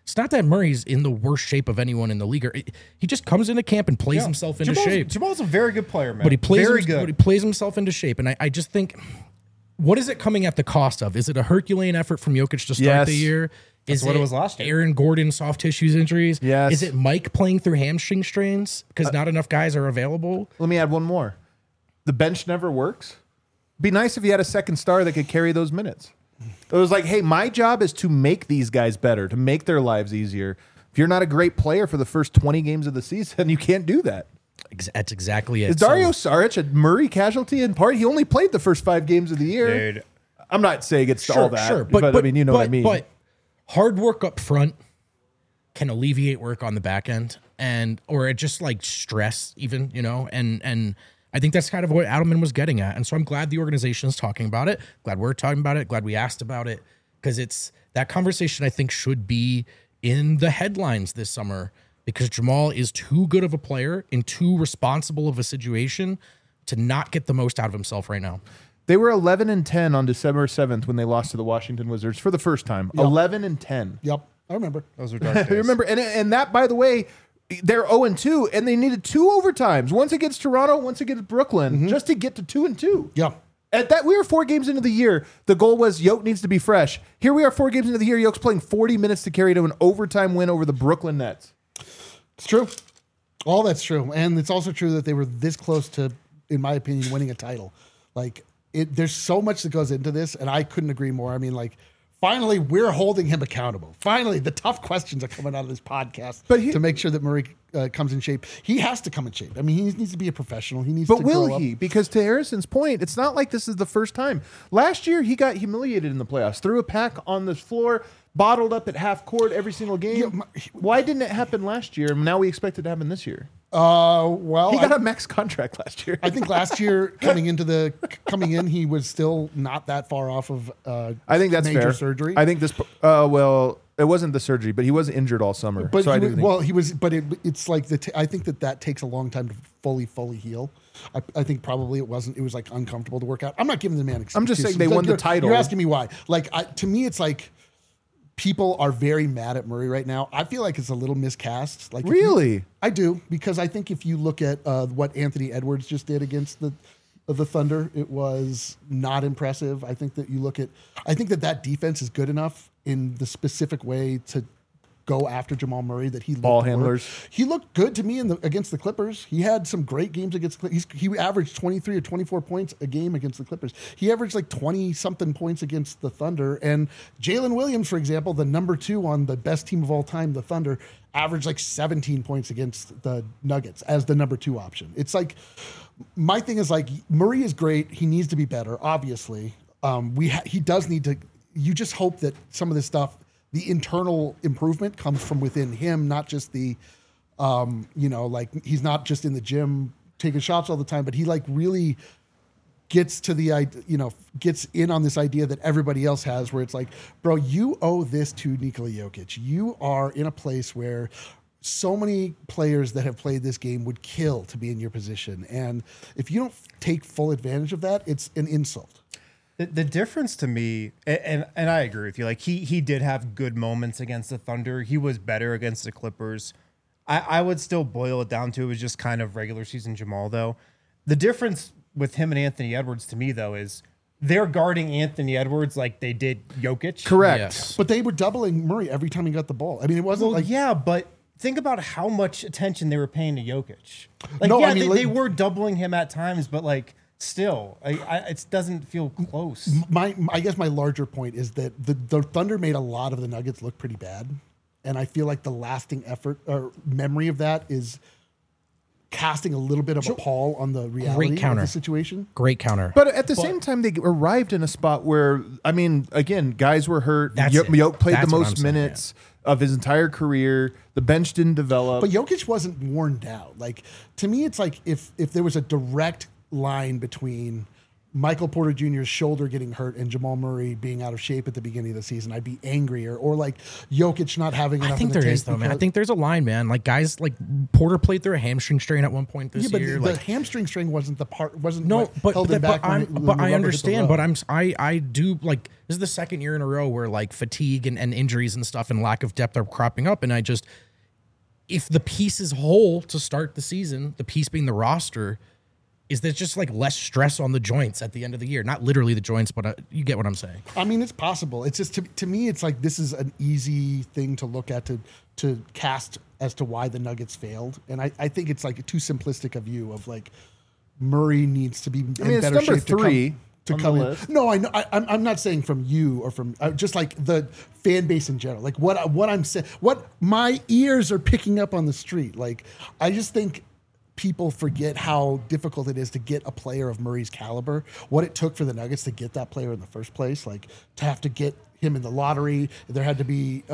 It's not that Murray's in the worst shape of anyone in the league. He just comes into camp and plays himself into shape. Jamal's a very good player, man. But he plays good. But he plays himself into shape. And I just think, what is it coming at the cost of? Is it a Herculean effort from Jokic to start the year? Is what it was last year. Aaron Gordon soft tissues injuries? Yes. Is it Mike playing through hamstring strains because not enough guys are available? Let me add one more. The bench never works. Be nice if you had a second star that could carry those minutes. It was like, hey, my job is to make these guys better, to make their lives easier. If you're not a great player for the first 20 games of the season, you can't do that. That's exactly it. Is Dario Saric a Murray casualty in part? He only played the first 5 games of the year. Dude. I'm not saying it's all that, Sure, but I mean, you know what I mean. But hard work up front can alleviate work on the back end, or it just like stress even, and I think that's kind of what Adelman was getting at. And so I'm glad the organization is talking about it. Glad we're talking about it. Glad we asked about it, because it's that conversation I think should be in the headlines this summer, because Jamal is too good of a player and too responsible of a situation to not get the most out of himself right now. They were 11-10 on December 7th when they lost to the Washington Wizards for the first time. 11-10. Yep, I remember. Those were dark days. I remember, and that, by the way, they're 0-2, and they needed 2 overtimes. Once against Toronto, once against Brooklyn, just to get to 2-2. Yeah. At that, we were 4 games into the year. The goal was Yoke needs to be fresh. Here we are 4 games into the year. Yoke's playing 40 minutes to carry to an overtime win over the Brooklyn Nets. It's true. All that's true. And it's also true that they were this close to, in my opinion, winning a title. Like, there's so much that goes into this, and I couldn't agree more. I mean, like, finally, we're holding him accountable. Finally, the tough questions are coming out of this podcast to make sure that Murray comes in shape. He has to come in shape. I mean, he needs to be a professional. He needs to grow up. But will he? Because to Harrison's point, it's not like this is the first time. Last year, he got humiliated in the playoffs. Threw a pack on the floor, bottled up at half court every single game. Why didn't it happen last year? And now we expect it to happen this year. Well, he got a max contract last year. I think last year coming in, he was still not that far off of. I think that's major fair. surgery. I think this. Well, it wasn't the surgery, but he was injured all summer. But so he was. But it's like I think that takes a long time to fully heal. I think probably it wasn't. It was like uncomfortable to work out. I'm not giving the man excuses. I'm just saying they won the title. You're asking me why? Like to me, it's like. People are very mad at Murray right now. I feel like it's a little miscast. Like, really? I do, because I think if you look at what Anthony Edwards just did against the Thunder, it was not impressive. I think that defense is good enough in the specific way to go after Jamal Murray that he ball handlers. He looked good to me against the Clippers. He had some great games against the Clippers. He averaged 23 or 24 points a game against the Clippers. He averaged like 20-something points against the Thunder. And Jalen Williams, for example, the number 2 on the best team of all time, the Thunder, averaged like 17 points against the Nuggets as the number 2 option. It's like, my thing is like, Murray is great. He needs to be better, obviously. He does need to, you just hope that some of this stuff, the internal improvement comes from within him, not just the, like he's not just in the gym taking shots all the time, but he like really gets to the, gets in on this idea that everybody else has, where it's like, bro, you owe this to Nikola Jokic. You are in a place where so many players that have played this game would kill to be in your position. And if you don't take full advantage of that, it's an insult. The difference to me, and I agree with you, like he did have good moments against the Thunder. He was better against the Clippers. I would still boil it down to it was just kind of regular season Jamal, though. The difference with him and Anthony Edwards to me, though, is they're guarding Anthony Edwards like they did Jokic. Correct. Yes. But they were doubling Murray every time he got the ball. I mean, it wasn't yeah, but think about how much attention they were paying to Jokic. Like, No, yeah, I mean, they were doubling him at times, but like, still, it doesn't feel close. I guess my larger point is that the Thunder made a lot of the Nuggets look pretty bad, and I feel like the lasting effort or memory of that is casting a little bit of a pall on the reality of the situation. Great counter. But at the same time, they arrived in a spot where, I mean, again, guys were hurt. That's it. Yoke played That's the what I'm most saying, minutes of his entire career. The bench didn't develop. But Jokic wasn't worn down. Like, to me, it's like if there was a direct line between Michael Porter Jr.'s shoulder getting hurt and Jamal Murray being out of shape at the beginning of the season, I'd be angrier. Or like Jokic not having enough. I think there is though, man. I think there's a line, man. Like guys like Porter played through a hamstring strain at one point this year. But like, the hamstring strain wasn't the part. Wasn't no, what held him back. But I understand. But I do like this is the second year in a row where like fatigue and injuries and stuff and lack of depth are cropping up, and I just if the piece is whole to start the season, the piece being the roster. Is there just like less stress on the joints at the end of the year? Not literally the joints, but you get what I'm saying. I mean, it's possible. It's just to me, it's like this is an easy thing to look at to cast as to why the Nuggets failed, and I think it's like too simplistic a view of like Murray needs to be in better it's number shape 3 to come in. No, I know. I'm not saying from you or from just like the fan base in general. Like what I'm saying, what my ears are picking up on the street. Like I just think. People forget how difficult it is to get a player of Murray's caliber, what it took for the Nuggets to get that player in the first place, like to have to get him in the lottery. There had to be,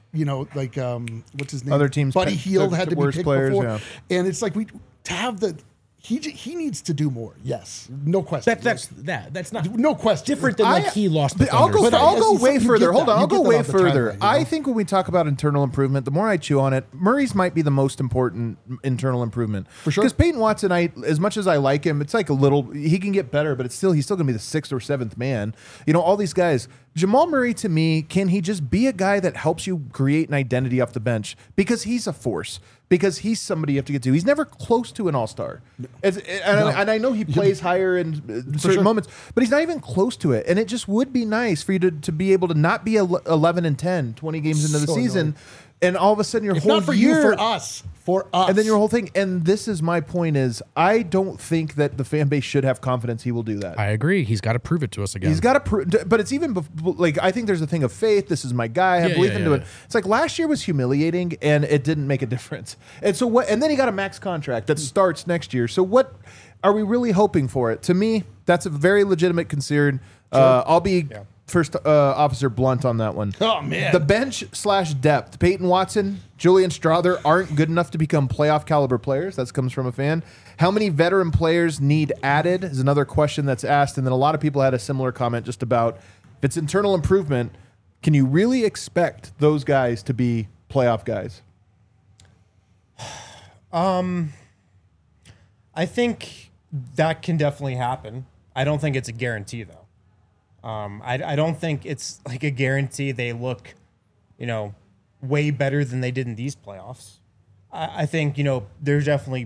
what's his name? Other teams, Buddy Hield had to be picked players, before. yeah. And it's like to have he needs to do more. Yes, no question. That's not no question. Different than he lost. The I'll Thunder. go way further. Hold on, I'll go way further. Timeline, I think when we talk about internal improvement, the more I chew on it, Murray's might be the most important internal improvement for sure. Because Peyton Watson, as much as I like him, it's like he can get better, but he's still going to be the 6th or 7th man. You know, all these guys. Jamal Murray, to me, can he just be a guy that helps you create an identity off the bench? Because he's a force. Because he's somebody you have to get to. He's never close to an all-star. And I know he plays higher in certain moments, but he's not even close to it. And it just would be nice for you to be able to not be 11 and 10, 20 games into the season, annoying. And all of a sudden your whole not for year, you, for us. And then your whole thing. And this is my point is I don't think that the fan base should have confidence he will do that. I agree. He's got to prove it to us again. He's got to prove, but it's even like I think there's a thing of faith. This is my guy. I believe into it. It's like last year was humiliating and it didn't make a difference. And so what? And then he got a max contract that starts next year. So what are we really hoping for it? To me, that's a very legitimate concern. Sure. I'll be. Yeah. First officer blunt on that one. Oh, man. The bench / depth. Peyton Watson, Julian Strawther aren't good enough to become playoff caliber players. That comes from a fan. How many veteran players need added is another question that's asked. And then a lot of people had a similar comment just about if it's internal improvement, can you really expect those guys to be playoff guys? I think that can definitely happen. I don't think it's a guarantee, though. I don't think it's like a guarantee they look, way better than they did in these playoffs. I think, there's definitely,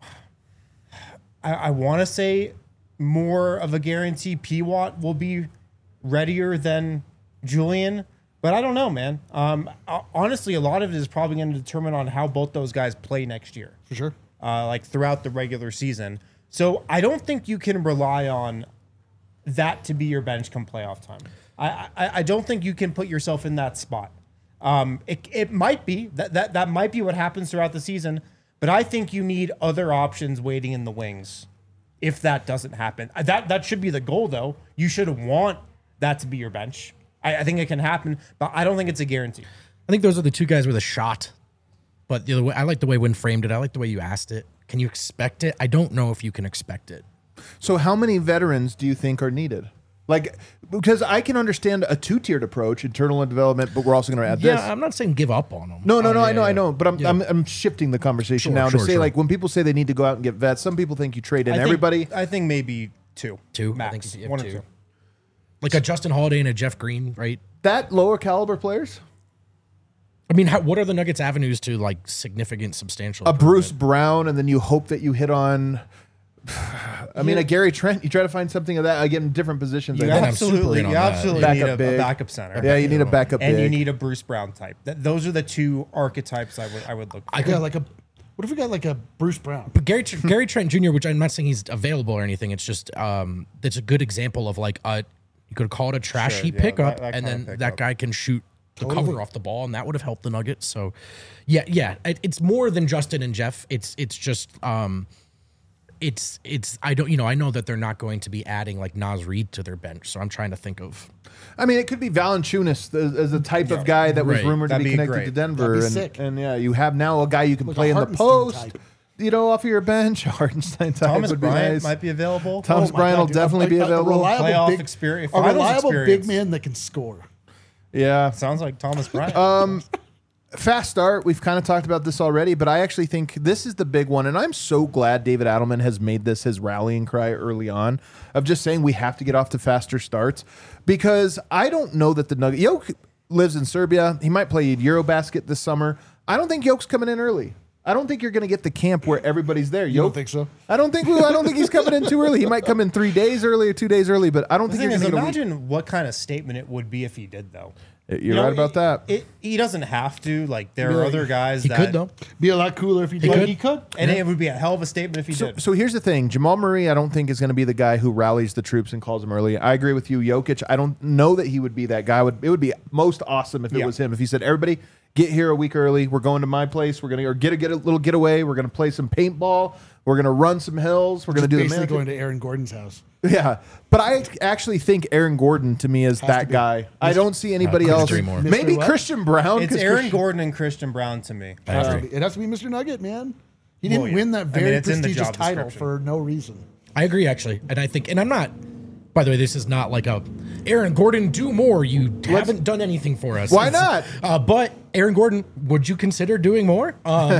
I want to say more of a guarantee P-Watt will be readier than Julian, but I don't know, man. Honestly, a lot of it is probably going to determine on how both those guys play next year. For sure. Like throughout the regular season. So I don't think you can rely on that to be your bench come playoff time. I don't think you can put yourself in that spot. It might be that might be what happens throughout the season, but I think you need other options waiting in the wings if that doesn't happen. That should be the goal, though. You should want that to be your bench. I think it can happen, but I don't think it's a guarantee. I think those are the two guys with a shot. But the other way, I like the way Wynn framed it. I like the way you asked it. Can you expect it? I don't know if you can expect it. So how many veterans do you think are needed? Like, because I can understand a 2-tiered approach, internal and development, but we're also going to add this. Yeah, I'm not saying give up on them. No, I know. But I'm shifting the conversation now to say, like, when people say they need to go out and get vets, some people think you trade in everybody. I think maybe two. I Max. think you have 1 or 2. 2. Like a Justin Holiday and a Jeff Green, right? That lower caliber players? I mean, what are the Nuggets' avenues to, like, significant, substantial? A Bruce Brown, and then you hope that you hit on... I mean, a Gary Trent, you try to find something of that, again, in different positions. You absolutely need a backup center. Yeah, you need a backup and big. you need a Bruce Brown type. Those are the two archetypes I would look for. What if we got like a Bruce Brown? But Gary Trent Jr., which I'm not saying he's available or anything, it's just that's a good example of like you could call it a trash heap pickup, and then that guy can shoot the cover off the ball, and that would have helped the Nuggets. So, yeah, it's more than Justin and Jeff. It's just I know that they're not going to be adding like Naz Reid to their bench, so I'm trying to think of. I mean, it could be Valanciunas as a type of guy that was rumored to be connected to Denver, That'd be sick. and yeah, you have now a guy you can play in the post. off of your bench. Hartenstein type Thomas would be Bryant nice. might be available. Thomas Bryant will definitely be available. Playoff experience, experience, a finals reliable experience. big man that can score. Yeah. Sounds like Thomas Bryant. Fast start. We've kind of talked about this already, but I actually think this is the big one. And I'm so glad David Adelman has made this his rallying cry early on of just saying we have to get off to faster starts, because I don't know that the Nuggets. Jokic lives in Serbia. He might play Eurobasket this summer. I don't think Jokic's coming in early. I don't think you're going to get the camp where everybody's there. You don't think so? I don't think he's coming in too early. He might come in 3 days early or 2 days early, but I don't The think thing you're is, going to get imagine what kind of statement it would be if he did, though. You're right about that. He doesn't have to. Like, there are other guys He that could, though. Be a lot cooler if he did. He could, and it would be a hell of a statement if he did. So here's the thing. Jamal Murray, I don't think is going to be the guy who rallies the troops and calls them early. I agree with you. Jokic, I don't know that he would be that guy. It would be most awesome if it was him. If he said, everybody, get here a week early. We're going to my place. We're going to get a little getaway. We're going to play some paintball. We're going to run some hills. We're going to do the basically marathon. going to Aaron Gordon's house. Yeah, but I actually think Aaron Gordon to me is that guy. I don't see anybody else. More. Maybe Mr. what? Christian Brown. It's Aaron Gordon and Christian Brown to me. I agree. It has to be Mr. Nugget, man. He didn't Well, yeah. win that very it's in the prestigious job title description. for no reason. I agree, actually. And I think, and I'm not, by the way, this is not like a, Aaron Gordon, do more. You haven't done anything for us. Why not? But Aaron Gordon, would you consider doing more?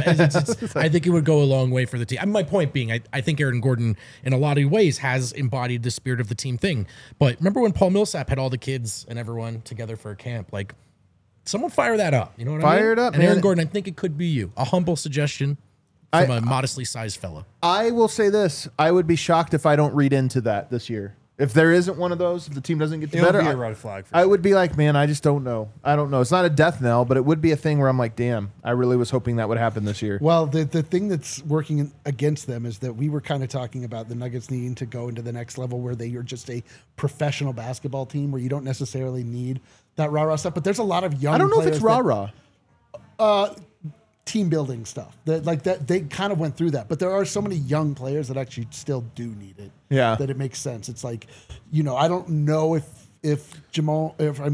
I think it would go a long way for the team. My point being, I think Aaron Gordon, in a lot of ways, has embodied the spirit of the team thing. But remember when Paul Millsap had all the kids and everyone together for a camp? Like, someone fire that up. You know what I mean? Fire it up, and man. Aaron Gordon, I think it could be you. A humble suggestion from a modestly sized fella. I will say this. I would be shocked if I don't read into that this year. If there isn't one of those, if the team doesn't get It'll better, be a red flag for I sure. would be like, man, I just don't know. I don't know. It's not a death knell, but it would be a thing where I'm like, damn, I really was hoping that would happen this year. Well, the thing that's working against them is that we were kind of talking about the Nuggets needing to go into the next level where they are just a professional basketball team where you don't necessarily need that rah-rah stuff. But there's a lot of young I don't know if it's players rah-rah. team building stuff that they kind of went through that, but there are so many young players that actually still do need it. Yeah. That it makes sense. It's like, I don't know if Nikola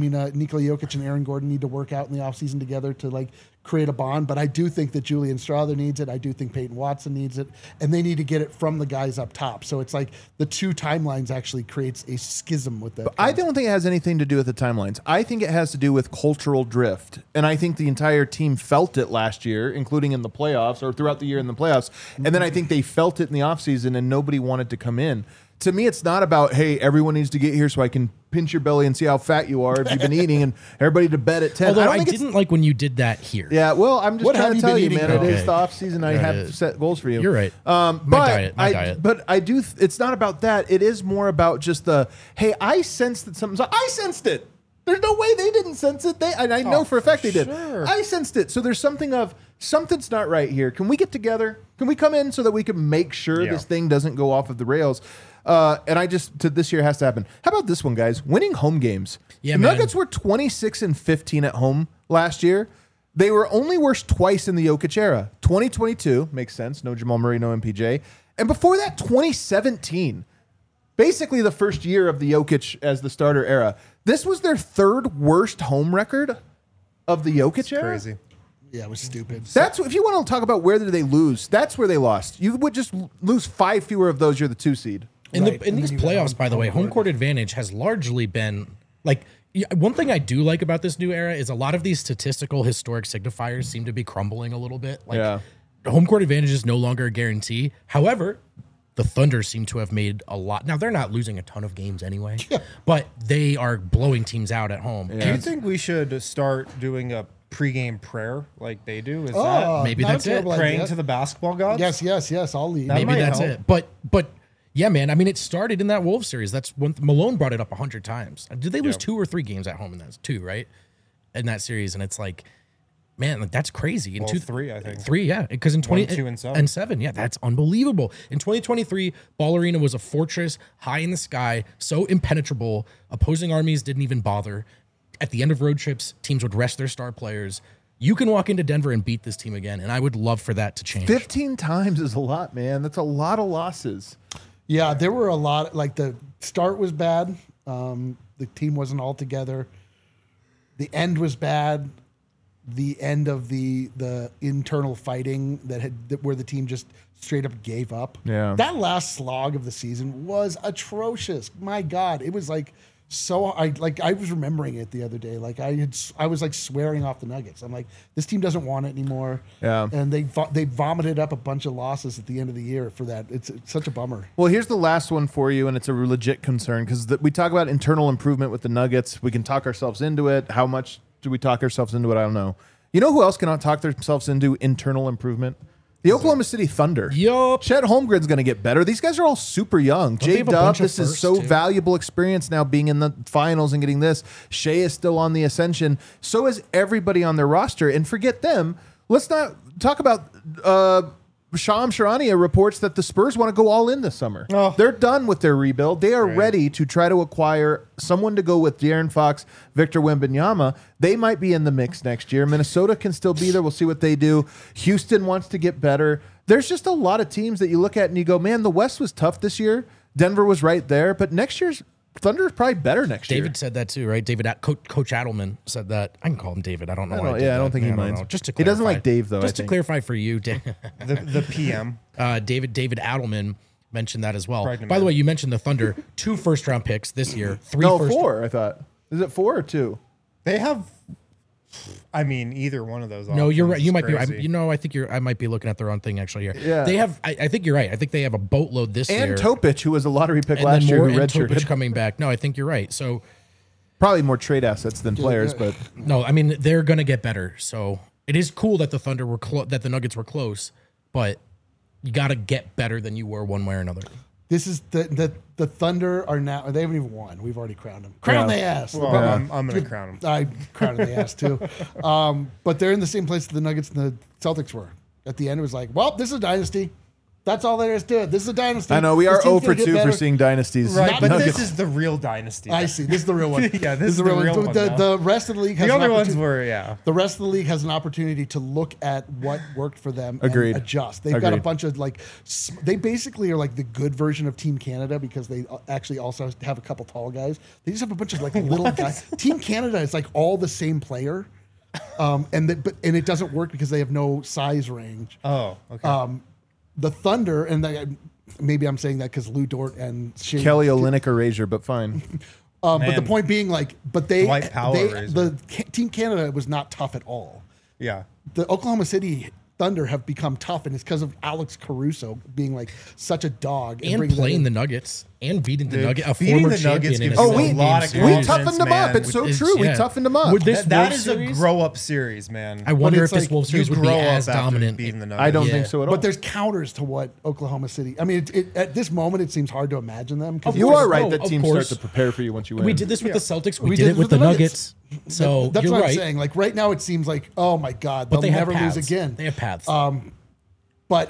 Jokic and Aaron Gordon need to work out in the offseason together to like create a bond, but I do think that Julian Strawther needs it. I do think Peyton Watson needs it, and they need to get it from the guys up top. So it's like the two timelines actually creates a schism with that. I don't think it has anything to do with the timelines. I think it has to do with cultural drift. And I think the entire team felt it last year, including in the playoffs or throughout the year in the playoffs. And then I think they felt it in the offseason and nobody wanted to come in. To me, it's not about, hey, everyone needs to get here so I can pinch your belly and see how fat you are if you've been eating and everybody to bed at 10. Although I think didn't like when you did that here. Yeah, well, I'm just What trying have to you tell been you, eating, man. bro? It is Okay. the off season. I have is. set goals for you. You're right. My diet. But I do. It's not about that. It is more about just the, hey, I sensed that something. I sensed it. There's no way they didn't sense it. I know for a fact they did. sure. I sensed it. So there's something of something's not right here. Can we get together? Can we come in so that we can make sure Yeah. this thing doesn't go off of the rails? And this year has to happen. How about this one, guys? Winning home games. Yeah, the man. Nuggets were 26-15 at home last year. They were only worse twice in the Jokic era. 2022 makes sense. No Jamal Murray, no MPJ. And before that, 2017. Basically the first year of the Jokic as the starter era. This was their third worst home record of the Jokic era. Crazy. Yeah, it was stupid. That's if you want to talk about where did they lose. That's where they lost. You would just lose 5 fewer of those. You're the 2 seed. In Right, these and then you got playoffs, by the way, home court advantage has largely been like one thing I do like about this new era is a lot of these statistical historic signifiers seem to be crumbling a little bit. Like Yeah. home court advantage is no longer a guarantee. However, the Thunder seem to have made a lot. Now they're not losing a ton of games anyway, but they are blowing teams out at home. Do you think we should start doing a pregame prayer like they do? Is Maybe not a that's it. terrible that praying idea. to the basketball gods? Yes. I'll leave. That Maybe might that's help. it. But yeah, man. I mean, it started in that Wolves series. That's when Malone brought it up 100 times. Did they lose 2 or 3 games at home in that? 2, right? In that series, and it's like, man, like that's crazy. In Well, 3, I think. 3, yeah. Because in 20 1, 2, and 7. and 7, yeah, that's unbelievable. In 2023, Ball Arena was a fortress high in the sky, so impenetrable. Opposing armies didn't even bother. At the end of road trips, teams would rest their star players. You can walk into Denver and beat this team again, and I would love for that to change. 15 times is a lot, man. That's a lot of losses. Yeah, there were a lot. Like the start was bad. The team wasn't all together. The end was bad. the end of the internal fighting where the team just straight up gave up. Yeah. That last slog of the season was atrocious. My God, it was like so. I was remembering it the other day. Like I was like swearing off the Nuggets. I'm like, this team doesn't want it anymore. Yeah. And they vomited up a bunch of losses at the end of the year for that. It's such a bummer. Well, here's the last one for you, and it's a legit concern because we talk about internal improvement with the Nuggets. We can talk ourselves into it. How much do we talk ourselves into it? I don't know. You know who else cannot talk themselves into internal improvement? The Oklahoma City Thunder. Yup. Chet Holmgren's going to get better. These guys are all super young. they have a J-Dub, bunch of this is firsts, so too? valuable experience now being in the finals and getting this. Shea is still on the ascension. So is everybody on their roster. And forget them. Let's not talk about Sham Charania reports that the Spurs want to go all in this summer. Oh. They're done with their rebuild. They are ready to try to acquire someone to go with De'Aaron Fox, Victor Wembanyama. They might be in the mix next year. Minnesota can still be there. We'll see what they do. Houston wants to get better. There's just a lot of teams that you look at and you go, man, the West was tough this year. Denver was right there, but next year's Thunder is probably better next year. David said that too, right? Coach Adelman said that. I can call him David. I don't know. I don't think he minds. Just to He doesn't clarify. like Dave, though, Just I to think. clarify for you, The PM. David Adelman mentioned that as well. Pregnant By the man. way, you mentioned the Thunder, 2 first-round picks this year, 3 No, first. 4, I thought. Is it 4 or 2? They have. I mean, either one of those. No, you're right. options You is might be. crazy. I think I might be looking at the wrong thing actually here. Yeah. They have. I think you're right. I think they have a boatload this And year. Topic, who was a lottery pick and last then year, more who and Topic redshirted. coming back. No, I think you're right. So Probably more trade assets than players, but no, I mean they're gonna get better. So it is cool that the Thunder were that the Nuggets were close, but you got to get better than you were one way or another. This is the Thunder are now. They haven't even won. We've already crowned them. Crown the ass. Well, I'm going to crown them. I crowned the ass too. But they're in the same place that the Nuggets and the Celtics were. At the end, it was like, well, this is a dynasty. That's all there is to it. This is a dynasty. I know we This are team's 0 gonna for get 2 better. for seeing dynasties. Right, but Nuggets. this is the real dynasty. I see. This is the real one. Yeah, this is the real real one. one The, now. the rest of the league has The an other ones opportunity- were, yeah. The rest of the league has an opportunity to look at what worked for them Agreed. and adjust. They've got a Agreed. bunch of they basically are like the good version of Team Canada because they actually also have a couple tall guys. They just have a bunch of like little guys. Team Canada is like all the same player, and it doesn't work because they have no size range. Oh, okay. The Thunder, and maybe I'm saying that because Lou Dort and Shea, Kelly Olynyk erasure, but fine. but the Man. point being, like, Dwight Powell razor. Team Canada was not tough at all. yeah. The Oklahoma City Thunder have become tough, and it's because of Alex Caruso being like such a dog And bringing that playing in. the Nuggets and beating the Dude, Nuggets, a beating former the Nuggets champion. In gives a you Oh, we, a lot of seven-game we series. toughened them up. man. It's so It's- true. We yeah. toughened them up. Would this That Wolves is series? a grow-up series, man. I wonder But if it's this like Wolves You series would be grow as up after dominant. beating the Nuggets. I don't Yeah. think so at all. But there's counters to what Oklahoma City. I mean, at this moment, it seems hard to imagine them. 'cause you it's are just- right Oh, that of teams start course. to prepare for you once you win. We did this with the Celtics. We, We did did it with the Nuggets. So That's you're what right. I'm saying. Like right now, it seems like, oh my God, But they'll they have never lose paths. again. They have paths. But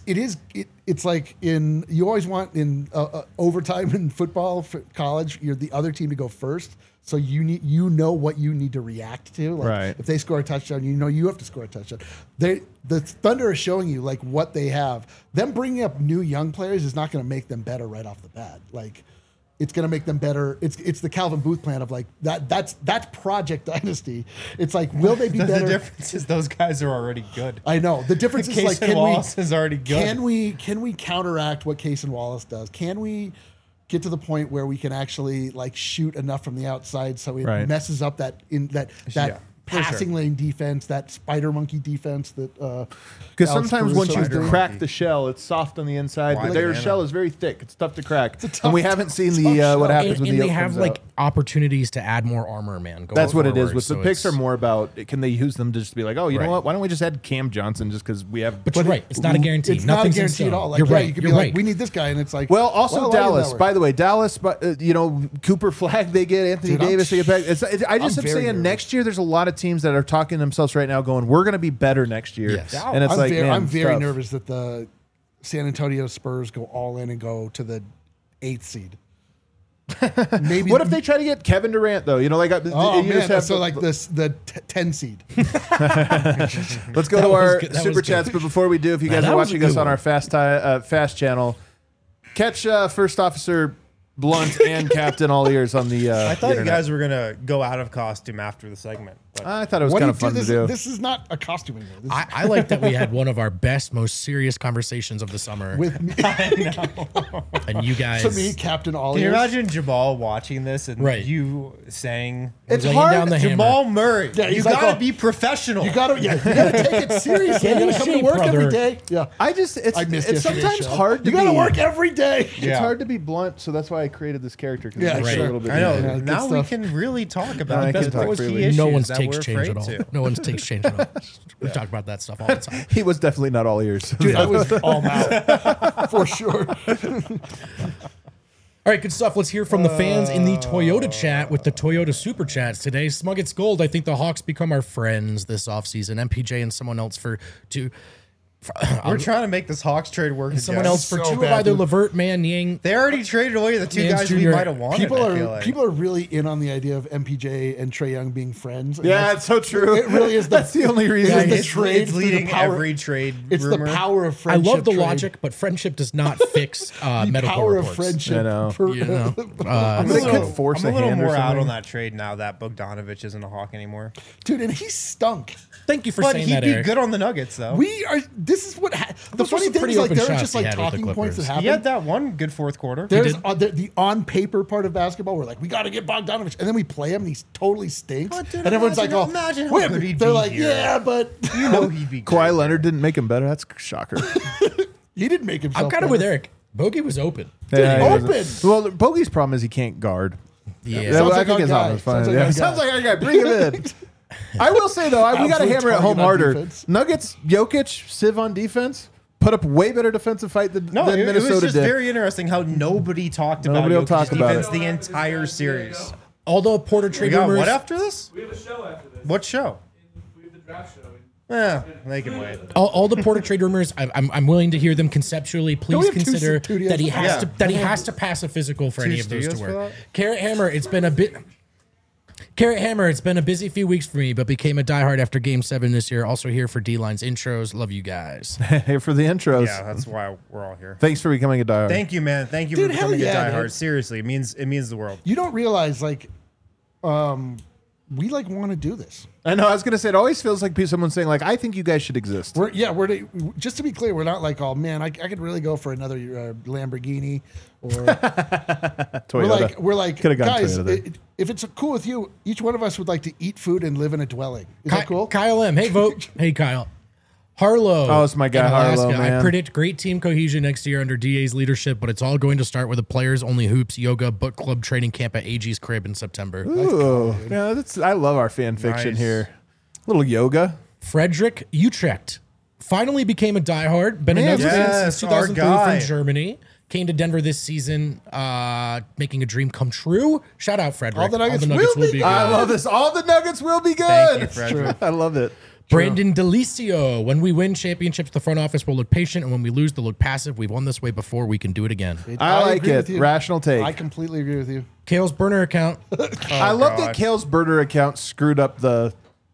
it's like you always want in overtime in football, for college, you're the other team to go first. So you know what you need to react to. Like Right. if they score a touchdown, you know you have to score a touchdown. The Thunder is showing you like what they have. Them bringing up new young players is not going to make them better right off the bat. Like it's going to make them better. It's the Calvin Booth plan of like that's Project Dynasty. It's like will they be The better? difference is those guys are already good. I know the difference is like Casey Wallace is already good. Can we counteract what Case and Wallace does? Can we get to the point where we can actually like shoot enough from the outside so it Right. messes up that Yeah, for passing sure. lane defense, that spider monkey defense that Because Alex sometimes Caruso once you is doing. crack the shell, it's soft on the inside, but Why their banana? shell is very thick. It's tough to crack. a tough- And we haven't seen tough the shell. what happens and when the they yolk have comes like out. opportunities to add more armor, man. That's what it is. forward, With the so picks are it's- more about can they use them to just be like, oh, you Right. know what? Why don't we just add Cam Johnson just because we have. But you're right. It's not a guarantee. It's not a Nothing's in guarantee at stone. all. Like You're yeah, right. you could You're be right. like, we need this guy, and it's like, Well, also why did that Dallas. work? By the way, Dallas. But Cooper Flag they get Anthony Dude, I'm- Davis they get back. I just I'm am very saying nervous. next year there's a lot of teams that are talking to themselves right now, going, we're going to be better next year. Yes. And it's like, man, I'm very tough. nervous that the San Antonio Spurs go all in and go to the 8th seed. Maybe What if they try to get Kevin Durant though? Oh you man, just have so like the 10 seed. Let's go That to was our good. That super was good. chats. But before we do, if you guys that are was a watching good us on one. our fast channel, catch First Officer Blunt and Captain All Ears on the. I thought you internet. guys were gonna go out of costume after the segment. I thought it was What kind do of you fun do? to do. This is not a costuming. This is I like that we had one of our best, most serious conversations of the summer, with me, and you guys. to me, Captain All Can you Ears. imagine Jamal watching this and Right. you saying, It's laying hard. down the hammer. Jamal Murray, Yeah, you he's like, gotta oh, be professional. You gotta take it seriously. Get You in gotta come to shape, work every brother. day. Yeah, I just it's I missed it's yesterday's sometimes show. hard to You gotta be, work every day. It's Yeah. hard to be blunt, so that's why I created this character. 'Cause it Yeah, makes it right. a little bit I know. easier. good Now we stuff. can really talk I about can the talk key freely. issues no one's that takes we're change at afraid all. to. No one's takes change at all. We talk about that stuff all the time. He was definitely not all ears. Dude, I was all mouth for sure. All right, good stuff. Let's hear from the fans in the Toyota chat with the Toyota Super Chats today. Smuggets Gold, I think the Hawks become our friends this offseason. MPJ and someone else We're trying to make this Hawks trade work. and someone Jeff. else for So two bad, of either dude. Levert, Man, Yang. They already traded away the two Nance guys we Jr. might have wanted. People I feel are like. people are really in on the idea of MPJ and Trae Young being friends. And Yeah, that's- it's so true. It really is. That's the only reason. It's the it's, trade it's through leading the power. every trade It's rumor. the power of I friendship. love the trade. logic, but friendship does not fix The medical power reports. of friendship. I know. You know? I'm They a could little, force I'm a a little hand or more out something. on that trade now that Bogdanovich isn't a Hawk anymore. Dude, and he stunk. Thank you for But saying he'd that, be Eric. good on the Nuggets, though. We are. This is what. The Those were funny some thing pretty is, like, open there are shots just he like had with the talking points that Clippers. happen. he had that one good fourth quarter. There's did. the on paper part of basketball. We're like, we got to get Bogdanovich, and then we play him, and he totally stinks. But, dude, and everyone's imagine- like, oh, imagine how wait, good he'd they're be like, here. yeah, but You know he'd be great. Kawhi Leonard didn't make him better. That's a shocker. he didn't make himself. I'm kind of with Eric. Bogey was open. Yeah, he open. wasn't- Well, Bogey's problem is he can't guard. Yeah. Sounds I like think our his guy. arm is fine. Sounds like Yeah, our sounds guy. like our guy. Bring him in. I will say though, we got to Absolute hammer it target home on harder. defense. Nuggets, Jokic, Civ on defense put up way better defensive fight than No, it Minnesota was just did. very interesting how nobody talked about Nobody will Jokic's talk about defense it. the entire series. Although Porter We trade got rumors. what after this? We have a show after this. What show? We have the draft show. They can wait. All the Porter trade rumors, I'm willing to hear them conceptually. we Please have two consider studios that he for has that? to pass a physical for any of those to studios for work. that? Carrot Hammer, it's been a bit. Carrot Hammer, it's been a busy few weeks for me, but became a diehard after Game 7 this year. Also here for D-Line's intros. Love you guys. Hey, for the intros. Yeah, that's why we're all here. Thanks for becoming a diehard. Thank you, man. Thank you Dude, for hell becoming yeah, a diehard. dude. Seriously, it means the world. You don't realize, like, we like want to do this. I know. I was gonna say it always feels like someone saying like, "I think you guys should exist." We're just to be clear, we're not like, oh man, I could really go for another Lamborghini, or Toyota. we're like, Coulda gone guys, Toyota. if it's cool with you, each one of us would like to eat food and live in a dwelling. Is that cool? Kyle M. Hey, vote. Hey, Kyle. Harlow. Oh, it's my guy, in Alaska. Harlow, man. I predict great team cohesion next year under DA's leadership, but it's all going to start with a players only hoops, yoga, book club training camp at AG's crib in September. Ooh, yeah, I love our fan fiction Nice. here. Little yoga. Frederick Utrecht finally became a diehard. Been a Man, Nuggets fan yes, since our 2003 guy. from Germany. Came to Denver this season, making a dream come true. Shout out, Frederick. All the Nuggets will be good. I love this. All the Nuggets will be good. Thank you, Frederick. I love it. Brandon Delicio. When we win championships, the front office will look patient, and when we lose, they'll look passive. We've won this way before. We can do it again. I like agree it. with you. Rational take. I completely agree with you. Kale's burner account. I love that God. Kale's burner account screwed up the.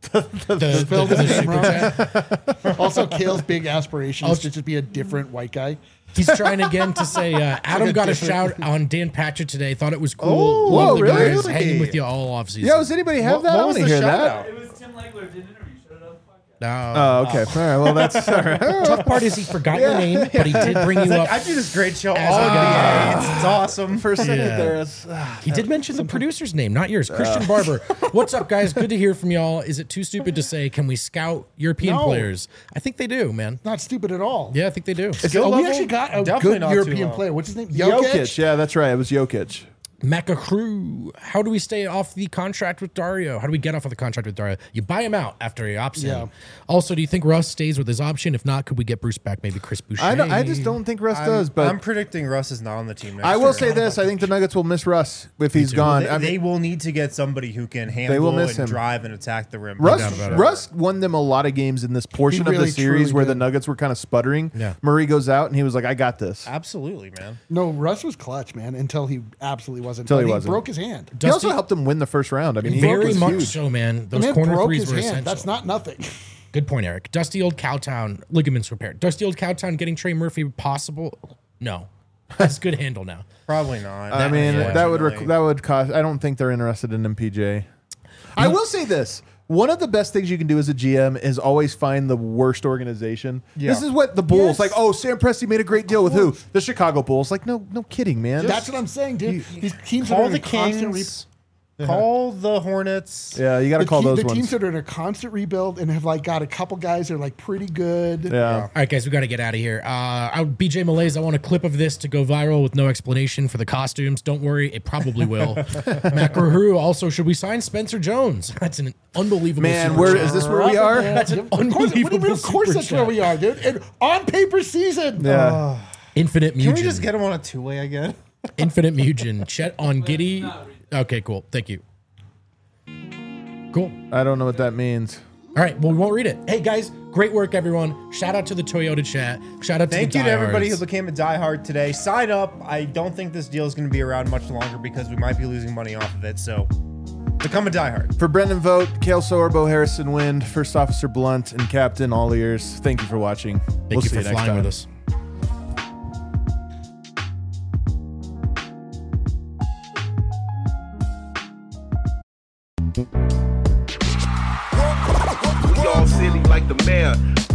The super chat. Also, Kale's big aspirations to just be a different white guy. He's trying again to say Adam got a shout on Dan Patchett today. Thought it was cool. Oh, Love whoa, the really? guys hanging with you all off season. Yo, does anybody have that? I What want was to the hear shout that. out? It was Tim Legler did an interview. Shut it on the podcast. No. Oh, okay. All right. Well, that's all right. Tough part is he forgot your name, but he did bring you up. I do this great show all As a guy. NBA. It's awesome. For a second Yeah. there, it's, He did mention the producer's name, not yours. Christian Barber. What's up, guys? Good to hear from y'all. Is it too stupid to say, can we scout European No. players? I think they do, man. Not stupid at all. Yeah, I think they do. Skill Oh, we level? actually got a Definitely good not too European low. player. What's his name? Jokic. Yeah, that's right. It was Jokic. Mecca Crew. How do we stay off the contract with Dario? How do we get off of the contract with Dario? You buy him out after he opts Yeah. in. Also, do you think Russ stays with his option? If not, could we get Bruce back? Maybe Chris Boucher? I just don't think Russ does. But I'm predicting Russ is not on the team next I will year. say this: I think the Nuggets will miss Russ if he's gone. They, I mean, they will need to get somebody who can handle will miss and him. drive and attack the rim. Russ, doubt about it. Russ won them a lot of games in this portion He of really, the series truly where the did. Nuggets were kind of sputtering. Yeah. Murray goes out and he was like, "I got this." Absolutely, man. No, Russ was clutch, man, until he absolutely wasn't. Until he But wasn't. broke his hand. He also Dusty- helped them win the first round. I mean, he Very was much huge. so, man. The Those man corner broke threes his were hand. essential. That's not nothing. Good point, Eric. Dusty old Cowtown ligaments repaired. Dusty old Cowtown getting Trey Murphy possible? No, that's good handle now. Probably not. I mean, that would Unfortunately. that would cost. I don't think they're interested in MPJ. I will say this: One of the best things you can do as a GM is always find the worst organization. Yeah. This is what the Bulls Yes. like. Oh, Sam Presti made a great deal with who? The Chicago Bulls. Like, no kidding, man. That's what I'm saying, dude. These teams that are Call in the a constant Kings. Call the Hornets. Yeah, you got to call those the ones. teams that are in a constant rebuild and have like got a couple guys that are like pretty good. Yeah. All right, guys, we got to get out of here. BJ Malaise, I want a clip of this to go viral with no explanation for the costumes. Don't worry, it probably will. Matt Grahu, also, should we sign Spencer Jones? That's an unbelievable Man, super where chat. is this where we are? That's an Of course, what do you mean? unbelievable Of course super that's where chat. we are, dude. And on paper season. Yeah. Infinite Mugen. Can we just get him on a two-way again? Infinite Mugen. Chet on Giddy. Okay, cool. Thank you. Cool. I don't know what that means. All right, well, we won't read it. Hey, guys, great work, everyone. Shout out to the Toyota chat. Shout out to Thank the you to everybody who diehards. became a diehard today. Sign up. I don't think this deal is going to be around much longer because we might be losing money off of it. So become a diehard. For Brendan Vogt, Kale Sorbo, Harrison Wind, First Officer Blunt, and Captain All Ears, thank you for watching. Thank you see for next flying time. with us. We all silly like the mayor.